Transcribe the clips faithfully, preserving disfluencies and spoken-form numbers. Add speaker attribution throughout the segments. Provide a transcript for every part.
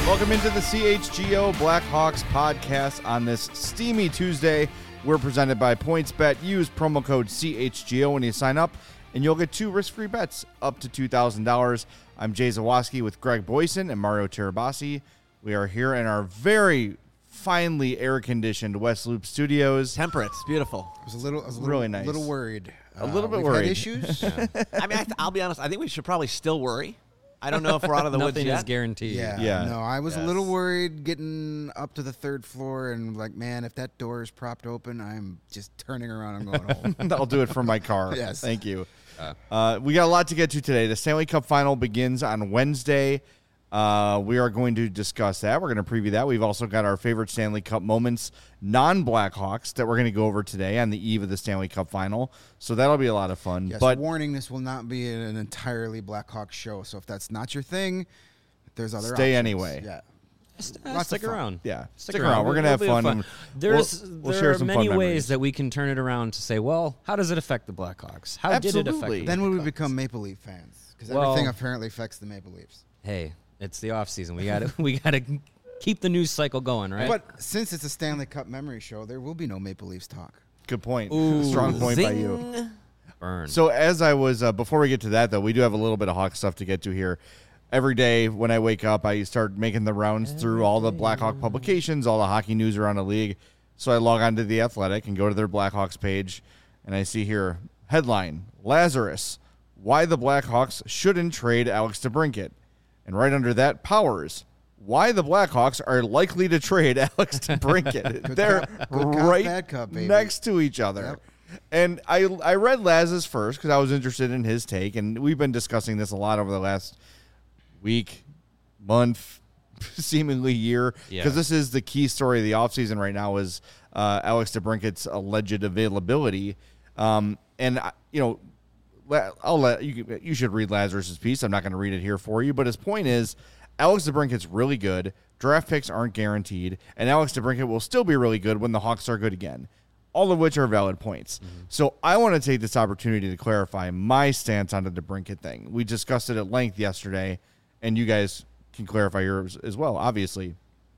Speaker 1: Welcome into the C H G O Blackhawks podcast on this steamy Tuesday. We're presented by PointsBet. Use promo code C H G O when you sign up, and you'll get two risk-free bets up to two thousand dollars. I'm Jay Zawoski with Greg Boyson and Mario Terabasi. We are here in our very finely air-conditioned West Loop Studios.
Speaker 2: Temperate. It's beautiful.
Speaker 3: I was a little, I was a little,
Speaker 1: Really nice.
Speaker 3: little worried.
Speaker 1: A little
Speaker 3: Uh,
Speaker 1: bit
Speaker 3: we've
Speaker 1: worried.
Speaker 3: Had issues.
Speaker 2: I mean, I th- I'll be honest. I think we should probably still worry. I don't know if we're out of the woods
Speaker 4: Nothing
Speaker 2: yet.
Speaker 4: is guaranteed.
Speaker 3: yeah,
Speaker 1: Yeah.
Speaker 3: No, I was
Speaker 2: Yes.
Speaker 3: a little worried getting up to the third floor and like, man, if that door is propped open, I'm just turning around and going home.
Speaker 1: I'll do it from my car.
Speaker 3: Yes.
Speaker 1: Thank you. Uh, we got a lot to get to today. The Stanley Cup Final begins on Wednesday. Uh, we are going to discuss that. We're going to preview that. We've also got our favorite Stanley Cup moments, non-Blackhawks, that we're going to go over today on the eve of the Stanley Cup Final. So that'll be a lot of fun.
Speaker 3: Yes,
Speaker 1: but
Speaker 3: warning, this will not be an entirely Blackhawk show. So if that's not your thing, there's other
Speaker 1: Stay
Speaker 3: options.
Speaker 1: anyway.
Speaker 3: Yeah.
Speaker 4: Uh,
Speaker 3: Lots
Speaker 4: stick
Speaker 3: of fun.
Speaker 4: around.
Speaker 1: yeah,
Speaker 4: Stick,
Speaker 1: stick around. We're going to have
Speaker 4: It'll be
Speaker 1: fun.
Speaker 4: fun. There's
Speaker 1: We'll- we'll
Speaker 4: there
Speaker 1: share
Speaker 4: are
Speaker 1: some fun
Speaker 4: many
Speaker 1: memories.
Speaker 4: ways that we can turn it around to say, well, how does it affect the Blackhawks? How did it affect
Speaker 1: Absolutely.
Speaker 4: the
Speaker 3: Then would we
Speaker 4: Blackhawks?
Speaker 3: become Maple Leaf fans? Because
Speaker 4: Well-
Speaker 3: everything apparently affects the Maple Leafs.
Speaker 4: Hey, it's the off season. We got to we got to keep the news cycle going, right?
Speaker 3: But since it's a Stanley Cup memory show, there will be no Maple Leafs talk.
Speaker 1: Good point.
Speaker 4: Ooh,
Speaker 1: Strong point by you.
Speaker 2: Zing.
Speaker 4: burn.
Speaker 1: So as I was, uh, before we get to that, though, we do have a little bit of Hawk stuff to get to here. Every day when I wake up, I start making the rounds through all the Blackhawk publications, all the hockey news around the league. So I log on to The Athletic and go to their Blackhawks page, and I see here, headline, Lazarus, why the Blackhawks shouldn't trade Alex DeBrincat. And right under that, Powers, why the Blackhawks are likely to trade Alex DeBrincat. They're
Speaker 3: cop- good cop,
Speaker 1: right
Speaker 3: bad cop, baby.
Speaker 1: next to each other.
Speaker 3: Yep.
Speaker 1: And I I read Laz's first because I was interested in his take, and we've been discussing this a lot over the last week, month, seemingly year, because
Speaker 4: Yeah.
Speaker 1: this is the key story of the offseason right now is uh, Alex DeBrincat's alleged availability. Um, and, I- you know, la- I'll let you, you should read Lazarus's piece. I'm not going to read it here for you, but his point is Alex DeBrincat's really good. Draft picks aren't guaranteed, and Alex DeBrincat will still be really good when the Hawks are good again. All of which are valid points.
Speaker 4: Mm-hmm.
Speaker 1: So I want to take this opportunity to clarify my stance on the DeBrincat thing. We discussed it at length yesterday, and you guys can clarify yours as well, obviously.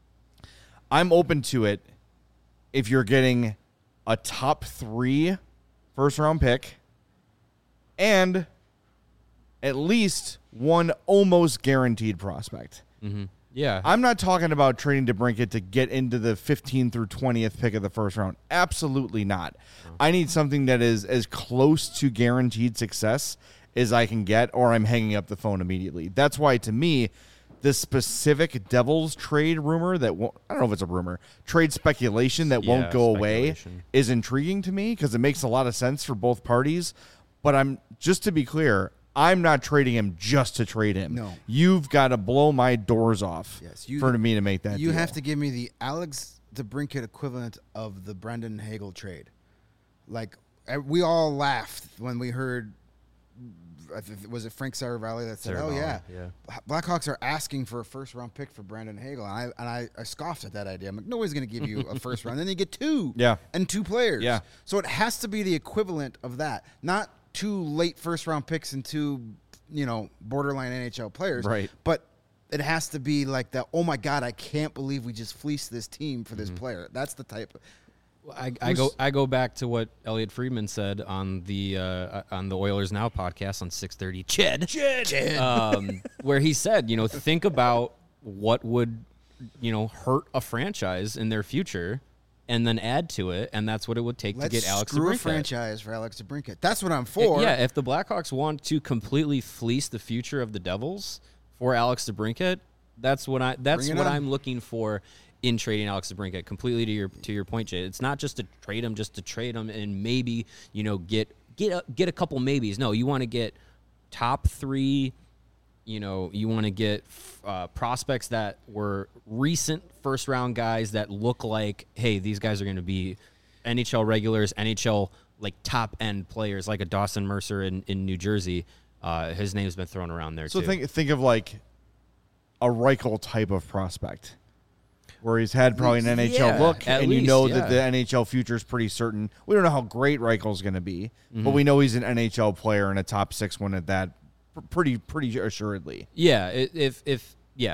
Speaker 1: I'm open to it if you're getting a top three first-round pick and at least one almost guaranteed prospect.
Speaker 4: Mm-hmm. Yeah.
Speaker 1: I'm not talking about trading DeBrincat to get into the fifteenth through twentieth pick of the first round. Absolutely not. I need something that is as close to guaranteed success as I can get, or I'm hanging up the phone immediately. That's why, to me, this specific Devils trade rumor that won't, I don't know if it's a rumor, trade speculation that won't
Speaker 4: Yeah,
Speaker 1: go away
Speaker 4: speculation.
Speaker 1: is intriguing to me because it makes a lot of sense for both parties. But I'm just to be clear, I'm not trading him just to trade him.
Speaker 3: No.
Speaker 1: You've got to blow my doors off
Speaker 3: Yes, you-
Speaker 1: for me to make that
Speaker 3: You
Speaker 1: deal.
Speaker 3: have to give me the Alex DeBrincat equivalent of the Brendan Hagel trade. Like, eh, we all laughed when we heard, I th- was it Frank Saravalli that said, oh,
Speaker 4: Saravalli,
Speaker 3: yeah,
Speaker 4: yeah.
Speaker 3: Blackhawks are asking for a first-round pick for Brendan Hagel. And I, and I, I scoffed at that idea. I'm like, nobody's going to give you a first round. Then you get two
Speaker 1: Yeah.
Speaker 3: and two players.
Speaker 1: Yeah.
Speaker 3: So it has to be the equivalent of that, not two late first-round picks and two, you know, borderline N H L players.
Speaker 1: Right.
Speaker 3: But it has to be like that, oh, my God, I can't believe we just fleeced this team for this player. That's the type of
Speaker 4: I, I go I go back to what Elliot Friedman said on the uh, on the Oilers Now podcast on six thirty. Ched, Ched, um, where he said, you know, think about what would, you know, hurt a franchise in their future, and then add to it, and that's what it would take
Speaker 3: Let's
Speaker 4: to get Alex
Speaker 3: screw a
Speaker 4: DeBrincat.
Speaker 3: franchise for Alex DeBrincat. That's what I'm for.
Speaker 4: Yeah, if the Blackhawks want to completely fleece the future of the Devils for Alex DeBrincat, that's what I that's
Speaker 3: Bring it
Speaker 4: what
Speaker 3: on.
Speaker 4: I'm looking for in trading Alex DeBrincat. Completely to your to your point, Jay. It's not just to trade him, just to trade him and maybe, you know, get get a, get a couple maybes. No, you want to get top three. You know, you want to get uh, prospects that were recent first round guys that look like, hey, these guys are going to be N H L regulars, N H L like top end players, like a Dawson Mercer in, in New Jersey. Uh, his name's been thrown around there
Speaker 1: So
Speaker 4: too.
Speaker 1: think think of like a Reichel type of prospect, where he's had probably an N H L
Speaker 4: Yeah,
Speaker 1: look,
Speaker 4: at
Speaker 1: and you
Speaker 4: least,
Speaker 1: know
Speaker 4: yeah.
Speaker 1: that the N H L future is pretty certain. We don't know how great Reichel's going to be,
Speaker 4: Mm-hmm.
Speaker 1: but we know he's an N H L player and a top six one at that, pr- pretty pretty assuredly.
Speaker 4: Yeah, i- if if yeah,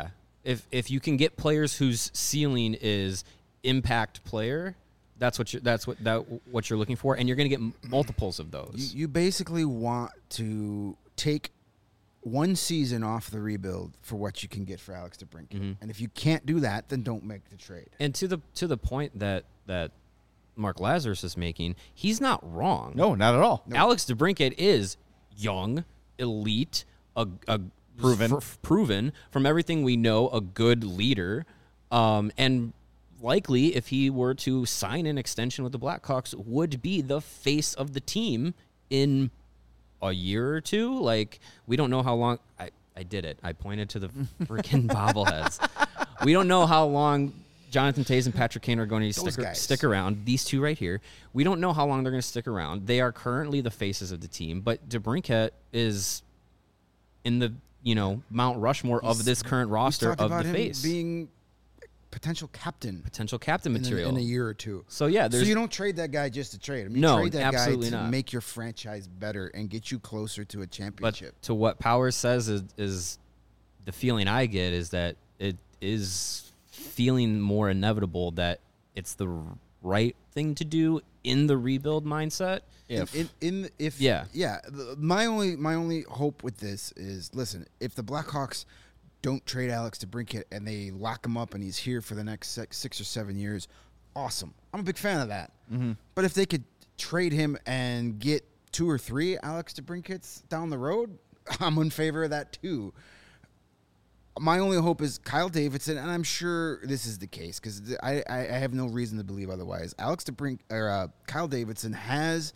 Speaker 4: if if you can get players whose ceiling is impact player, that's what you're that's what that what you're looking for, and you're going to get multiples of those.
Speaker 3: You, you basically want to take one season off the rebuild for what you can get for Alex DeBrincat.
Speaker 4: Mm-hmm.
Speaker 3: And if you can't do that, then don't make the trade.
Speaker 4: And to the to the point that that Mark Lazarus is making, he's not wrong.
Speaker 1: No, not at all.
Speaker 4: Alex DeBrincat is young, elite, a, a
Speaker 1: Proven.
Speaker 4: f- proven from everything we know, a good leader, um, and likely, if he were to sign an extension with the Blackhawks, would be the face of the team in a year or two. Like, we don't know how long. I, I did it. I pointed to the freaking bobbleheads. We don't know how long Jonathan Toews and Patrick Kane are going to
Speaker 3: Those
Speaker 4: stick,
Speaker 3: guys.
Speaker 4: stick around. These two right here. We don't know how long they're going to stick around. They are currently the faces of the team, but DeBrincat is in the, you know, Mount Rushmore
Speaker 3: He's-
Speaker 4: of this current
Speaker 3: We
Speaker 4: roster
Speaker 3: talked
Speaker 4: of
Speaker 3: about
Speaker 4: the
Speaker 3: him
Speaker 4: face.
Speaker 3: being potential captain
Speaker 4: Potential captain
Speaker 3: in a,
Speaker 4: material.
Speaker 3: in a year or two.
Speaker 4: So, yeah,
Speaker 3: So
Speaker 4: there's
Speaker 3: you don't trade that guy just to trade him. You
Speaker 4: No,
Speaker 3: trade that guy
Speaker 4: absolutely
Speaker 3: to
Speaker 4: not.
Speaker 3: make your franchise better and get you closer to a
Speaker 4: But
Speaker 3: championship.
Speaker 4: to what Powers says is, is the feeling I get is that it is feeling more inevitable that it's the right thing to do in the rebuild mindset.
Speaker 1: If.
Speaker 3: in, in if
Speaker 4: Yeah.
Speaker 3: yeah, the- my only my only hope with this is, listen, if the Blackhawks don't trade Alex DeBrincat and they lock him up and he's here for the next six, six or seven years, awesome. I'm a big fan of that.
Speaker 1: Mm-hmm.
Speaker 3: But if they could trade him and get two or three Alex DeBrincats down the road, I'm in favor of that too. My only hope is Kyle Davidson, and I'm sure this is the case because I, I, I have no reason to believe otherwise. Alex DeBrink or uh, Kyle Davidson has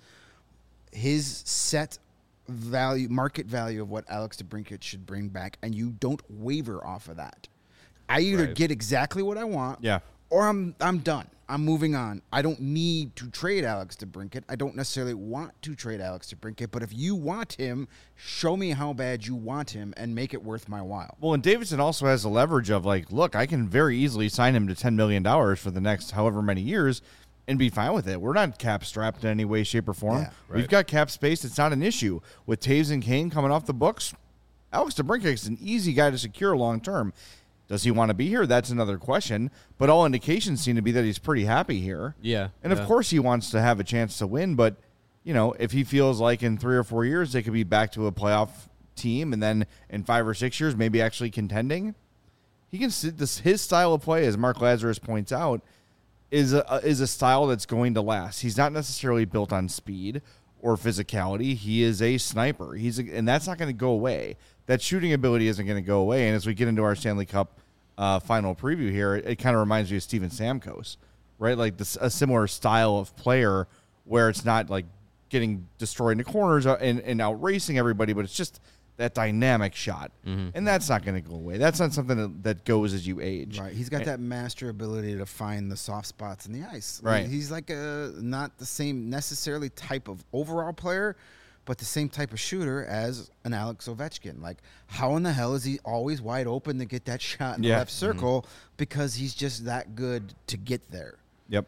Speaker 3: his set value, market value of what Alex DeBrincat should bring back, and you don't waver off of that. I either
Speaker 4: Right.
Speaker 3: get exactly what I want,
Speaker 1: Yeah.
Speaker 3: or I'm I'm done. I'm moving on. I don't need to trade Alex DeBrincat. I don't necessarily want to trade Alex DeBrincat, but if you want him, show me how bad you want him and make it worth my while.
Speaker 1: Well, and Davidson also has the leverage of, like, look, I can very easily sign him to ten million dollars for the next however many years and be fine with it. We're not cap strapped in any way, shape, or form.
Speaker 3: Yeah,
Speaker 1: We've got cap space. It's not an issue. With Toews and Kane coming off the books, Alex DeBrincat is an easy guy to secure long term. Does he want to be here? That's another question. But all indications seem to be that he's pretty happy here.
Speaker 4: Yeah,
Speaker 1: And of
Speaker 4: yeah.
Speaker 1: course he wants to have a chance to win, but you know, if he feels like in three or four years they could be back to a playoff team and then in five or six years maybe actually contending, he can sit this his style of play, as Mark Lazarus points out, is a is a style that's going to last. He's not necessarily built on speed or physicality. He is a sniper. He's a, and that's not going to go away. That shooting ability isn't going to go away. And as we get into our Stanley Cup uh, final preview here, it, it kind of reminds me of Steven Stamkos, right? Like this, a similar style of player where it's not like getting destroyed in the corners and, and out racing everybody, but it's just that dynamic shot.
Speaker 4: Mm-hmm.
Speaker 1: And that's not going to go away. That's not something that, that goes as you age.
Speaker 3: Right, he's got that master ability to find the soft spots in the ice.
Speaker 1: Right.
Speaker 3: He's like a not the same necessarily type of overall player, but the same type of shooter as an Alex Ovechkin. Like, how in the hell is he always wide open to get that shot in the
Speaker 1: Yeah.
Speaker 3: left circle? Because he's just that good to get there.
Speaker 1: Yep.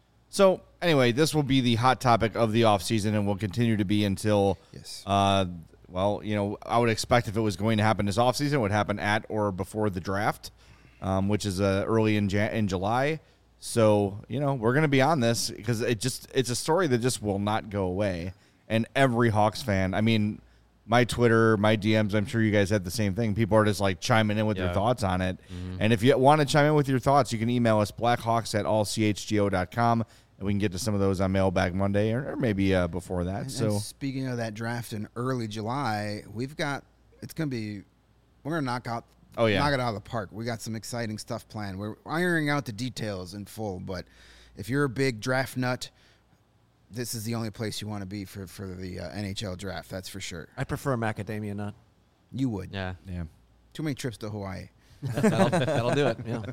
Speaker 1: So anyway, this will be the hot topic of the offseason and will continue to be until,
Speaker 3: Yes.
Speaker 1: uh, well, you know, I would expect if it was going to happen this offseason, it would happen at or before the draft, um, which is uh, early in Jan- in July. So, you know, we're going to be on this because it just it's a story that just will not go away. And every Hawks fan, I mean, my Twitter, my D Ms, I'm sure you guys had the same thing. People are just like chiming in with their
Speaker 4: Yeah.
Speaker 1: thoughts on it. And if you want to chime in with your thoughts, you can email us blackhawks at all c h g o dot com, and we can get to some of those on Mailbag Monday or, or maybe uh, before that.
Speaker 3: And,
Speaker 1: so
Speaker 3: and speaking of that draft in early July, we've got it's going to be we're going to knock out
Speaker 1: Oh, yeah.
Speaker 3: knock it out of the park. We got some exciting stuff planned. We're ironing out the details in full, but if you're a big draft nut, this is the only place you want to be for for the uh, N H L draft. That's for sure.
Speaker 2: I prefer macadamia nut.
Speaker 3: You would.
Speaker 4: Yeah.
Speaker 1: yeah.
Speaker 3: Too many trips to Hawaii.
Speaker 2: That'll, that'll do it. Yeah.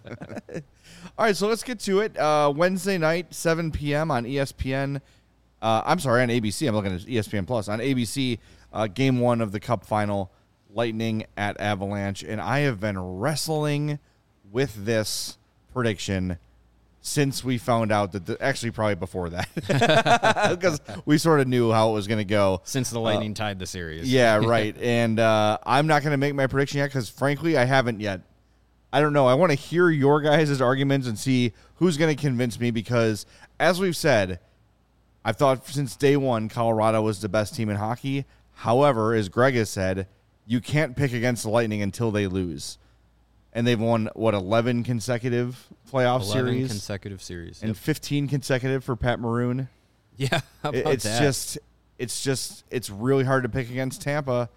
Speaker 1: All right, so let's get to it. Uh, Wednesday night, seven p.m. on E S P N. Uh, I'm sorry, on A B C. I'm looking at E S P N Plus. On A B C, uh, game one of the Cup final, Lightning at Avalanche. And I have been wrestling with this prediction since we found out that, the, actually probably before that, because we sort of knew how it was going to go.
Speaker 4: Since the Lightning tied the series.
Speaker 1: Yeah, right. And uh, I'm not going to make my prediction yet because, frankly, I haven't yet. I don't know. I want to hear your guys' arguments and see who's going to convince me because, as we've said, I've thought since day one Colorado was the best team in hockey. However, as Greg has said, you can't pick against the Lightning until they lose. And they've won, what, eleven consecutive playoff
Speaker 4: eleven
Speaker 1: series?
Speaker 4: consecutive series.
Speaker 1: And
Speaker 4: Yep.
Speaker 1: fifteen consecutive for Pat Maroon.
Speaker 4: Yeah, how about
Speaker 1: It's
Speaker 4: that?
Speaker 1: just, it's just, it's really hard to pick against Tampa.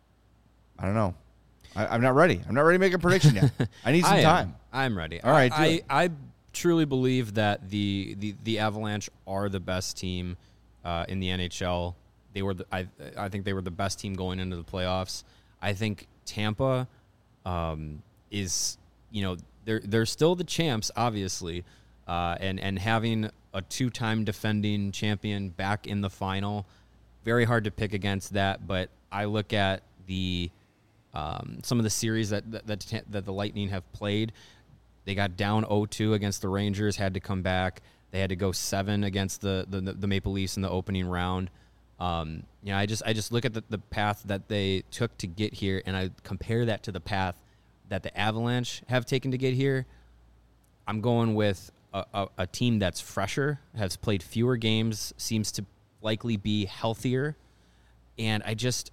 Speaker 1: I don't know. I, I'm not ready. I'm not ready to make a prediction yet. I need some
Speaker 4: I am.
Speaker 1: time.
Speaker 4: I'm ready.
Speaker 1: All right, do
Speaker 4: I,
Speaker 1: it.
Speaker 4: I, I truly believe that the, the, the Avalanche are the best team uh, in the N H L. They were, the, I, I think they were the best team going into the playoffs. I think Tampa um, is, you know, they're they're still the champs, obviously, uh, and and having a two-time defending champion back in the final, very hard to pick against that. But I look at the um, some of the series that that, that that the Lightning have played. They got down oh two against the Rangers, had to come back. They had to go seven against the the, the Maple Leafs in the opening round. Um, you know, I just I just look at the, the path that they took to get here, and I compare that to the path that the Avalanche have taken to get here. I'm going with a, a, a team that's fresher, has played fewer games, seems to likely be healthier, and I just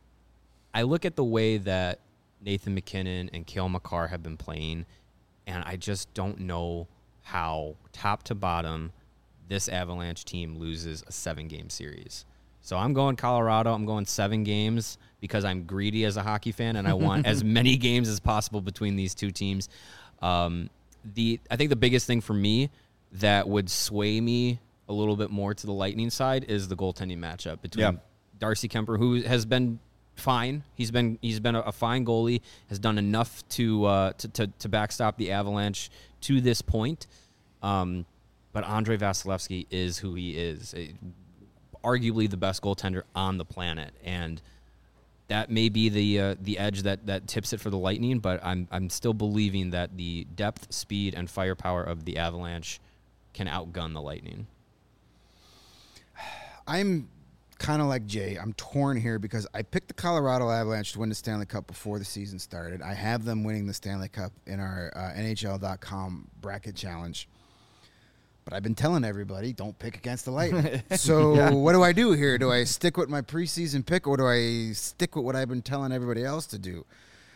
Speaker 4: I look at the way that Nathan McKinnon and Cale Makar have been playing, and I just don't know how top to bottom this Avalanche team loses a seven-game series. So I'm going Colorado. I'm going seven games because I'm greedy as a hockey fan, and I want as many games as possible between these two teams. Um, the I think the biggest thing for me that would sway me a little bit more to the Lightning side is the goaltending matchup between
Speaker 1: Yeah.
Speaker 4: Darcy Kemper, who has been fine. He's been he's been a, a fine goalie, has done enough to, uh, to to to backstop the Avalanche to this point. Um, but Andrei Vasilevsky is who he is. It, arguably the best goaltender on the planet, and that may be the uh, the edge that, that tips it for the Lightning. But I'm I'm still believing that the depth, speed, and firepower of the Avalanche can outgun the Lightning.
Speaker 3: I'm kind of like Jay. I'm torn here because I picked the Colorado Avalanche to win the Stanley Cup before the season started. I have them winning the Stanley Cup in our uh, N H L dot com bracket challenge. But I've been telling everybody, don't pick against the Lightning. So
Speaker 1: Yeah.
Speaker 3: what do I do here? Do I stick with my preseason pick, or do I stick with what I've been telling everybody else to do?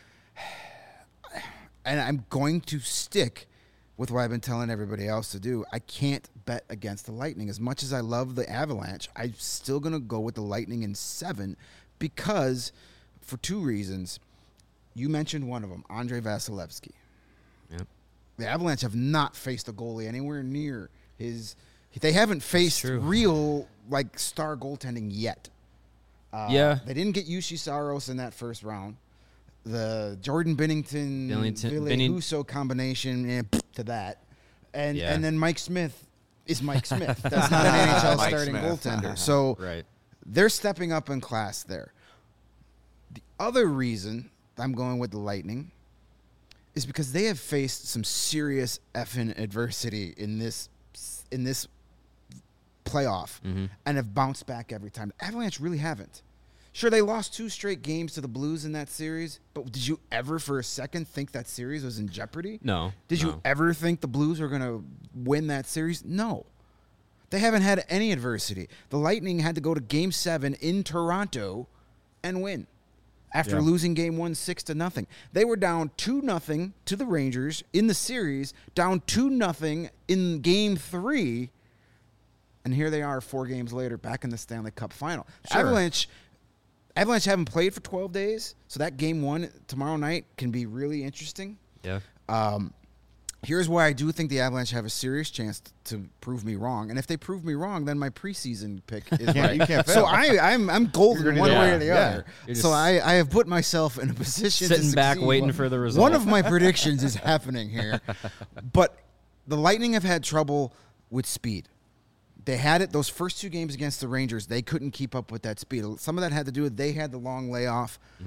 Speaker 3: And I'm going to stick with what I've been telling everybody else to do. I can't bet against the Lightning. As much as I love the Avalanche, I'm still going to go with the Lightning in seven because, for two reasons. You mentioned one of them, Andrei Vasilevsky.
Speaker 4: Yep.
Speaker 3: The Avalanche have not faced a goalie anywhere near his. They haven't faced
Speaker 4: true.
Speaker 3: real like star goaltending yet. Uh,
Speaker 4: Yeah.
Speaker 3: they didn't get Yushi Saros in that first round. The Jordan Binnington,
Speaker 4: Billington-
Speaker 3: Ville
Speaker 4: Binning-
Speaker 3: Husso combination eh, to that, and
Speaker 4: Yeah.
Speaker 3: and then Mike Smith is Mike Smith. That's not an N H L
Speaker 2: Mike
Speaker 3: starting
Speaker 2: Smith.
Speaker 3: goaltender. So
Speaker 4: Right.
Speaker 3: they're stepping up in class there. The other reason I'm going with the Lightning is because they have faced some serious effing adversity in this in this playoff
Speaker 4: Mm-hmm.
Speaker 3: and have bounced back every time. The Avalanche really haven't. Sure, they lost two straight games to the Blues in that series, but did you ever for a second think that series was in jeopardy?
Speaker 4: No.
Speaker 3: Did
Speaker 4: no.
Speaker 3: you ever think the Blues were going to win that series? No. They haven't had any adversity. The Lightning had to go to game seven in Toronto and win after
Speaker 1: Yeah.
Speaker 3: losing game one six to nothing. They were down two nothing to the Rangers in the series, down two nothing in game three, and here they are four games later back in the Stanley Cup final.
Speaker 1: Sure.
Speaker 3: Avalanche Avalanche haven't played for twelve days, so that game one tomorrow night can be really interesting.
Speaker 4: Yeah.
Speaker 3: Um, here's why I do think the Avalanche have a serious chance t- to prove me wrong. And if they prove me wrong, then my preseason pick is
Speaker 1: can't-
Speaker 3: right.
Speaker 1: you can't
Speaker 3: So
Speaker 1: fail.
Speaker 3: I, I'm I'm golden
Speaker 1: You're gonna
Speaker 3: one
Speaker 1: do
Speaker 3: way
Speaker 1: that.
Speaker 3: or the
Speaker 1: Yeah.
Speaker 3: other.
Speaker 4: You're
Speaker 3: So
Speaker 4: just
Speaker 3: I, I have put myself in a position to
Speaker 4: Sitting back
Speaker 3: succeed.
Speaker 4: waiting for the result.
Speaker 3: One of my predictions is happening here, but the Lightning have had trouble with speed. They had it those first two games against the Rangers. They couldn't keep up with that speed. Some of that had to do with they had the long layoff.
Speaker 4: Mm-hmm.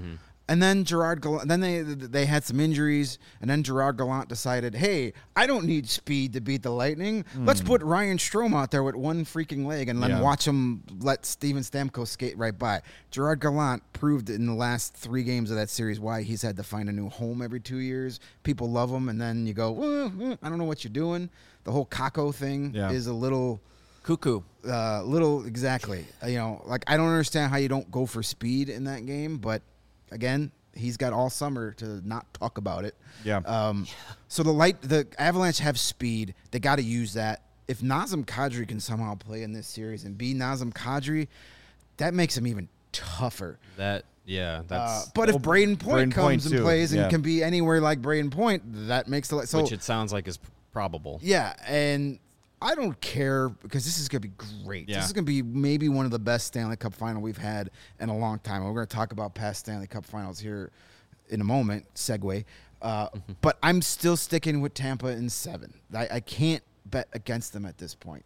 Speaker 3: And then Gerard Gallant, then they they had some injuries, and then Gerard Gallant decided, hey, I don't need speed to beat the Lightning. Mm. Let's put Ryan Strome out there with one freaking leg and then
Speaker 1: yeah.
Speaker 3: watch him let Steven Stamkos skate right by. Gerard Gallant proved in the last three games of that series why he's had to find a new home every two years. People love him, and then you go, well, I don't know what you're doing. The whole Kakko thing yeah. is a little...
Speaker 2: Cuckoo.
Speaker 3: Uh, little, exactly. Uh, you know, like, I don't understand how you don't go for speed in that game, but... Again, he's got all summer to not talk about it.
Speaker 1: Yeah.
Speaker 3: Um, so the light, the Avalanche have speed. They got to use that. If Nazem Kadri can somehow play in this series and be Nazem Kadri, that makes him even tougher.
Speaker 4: That yeah, that's.
Speaker 3: Uh, but if Braden Point
Speaker 1: Braden
Speaker 3: comes
Speaker 1: Point
Speaker 3: and
Speaker 1: too.
Speaker 3: plays and
Speaker 1: yeah.
Speaker 3: can be anywhere like Braden Point, that makes the so.
Speaker 4: Which it sounds like is probable.
Speaker 3: Yeah, and I don't care because this is going to be great.
Speaker 4: Yeah.
Speaker 3: This is going to be maybe one of the best Stanley Cup final we've had in a long time. We're going to talk about past Stanley Cup finals here in a moment, segue. Uh, but I'm still sticking with Tampa in seven. I, I can't bet against them at this point.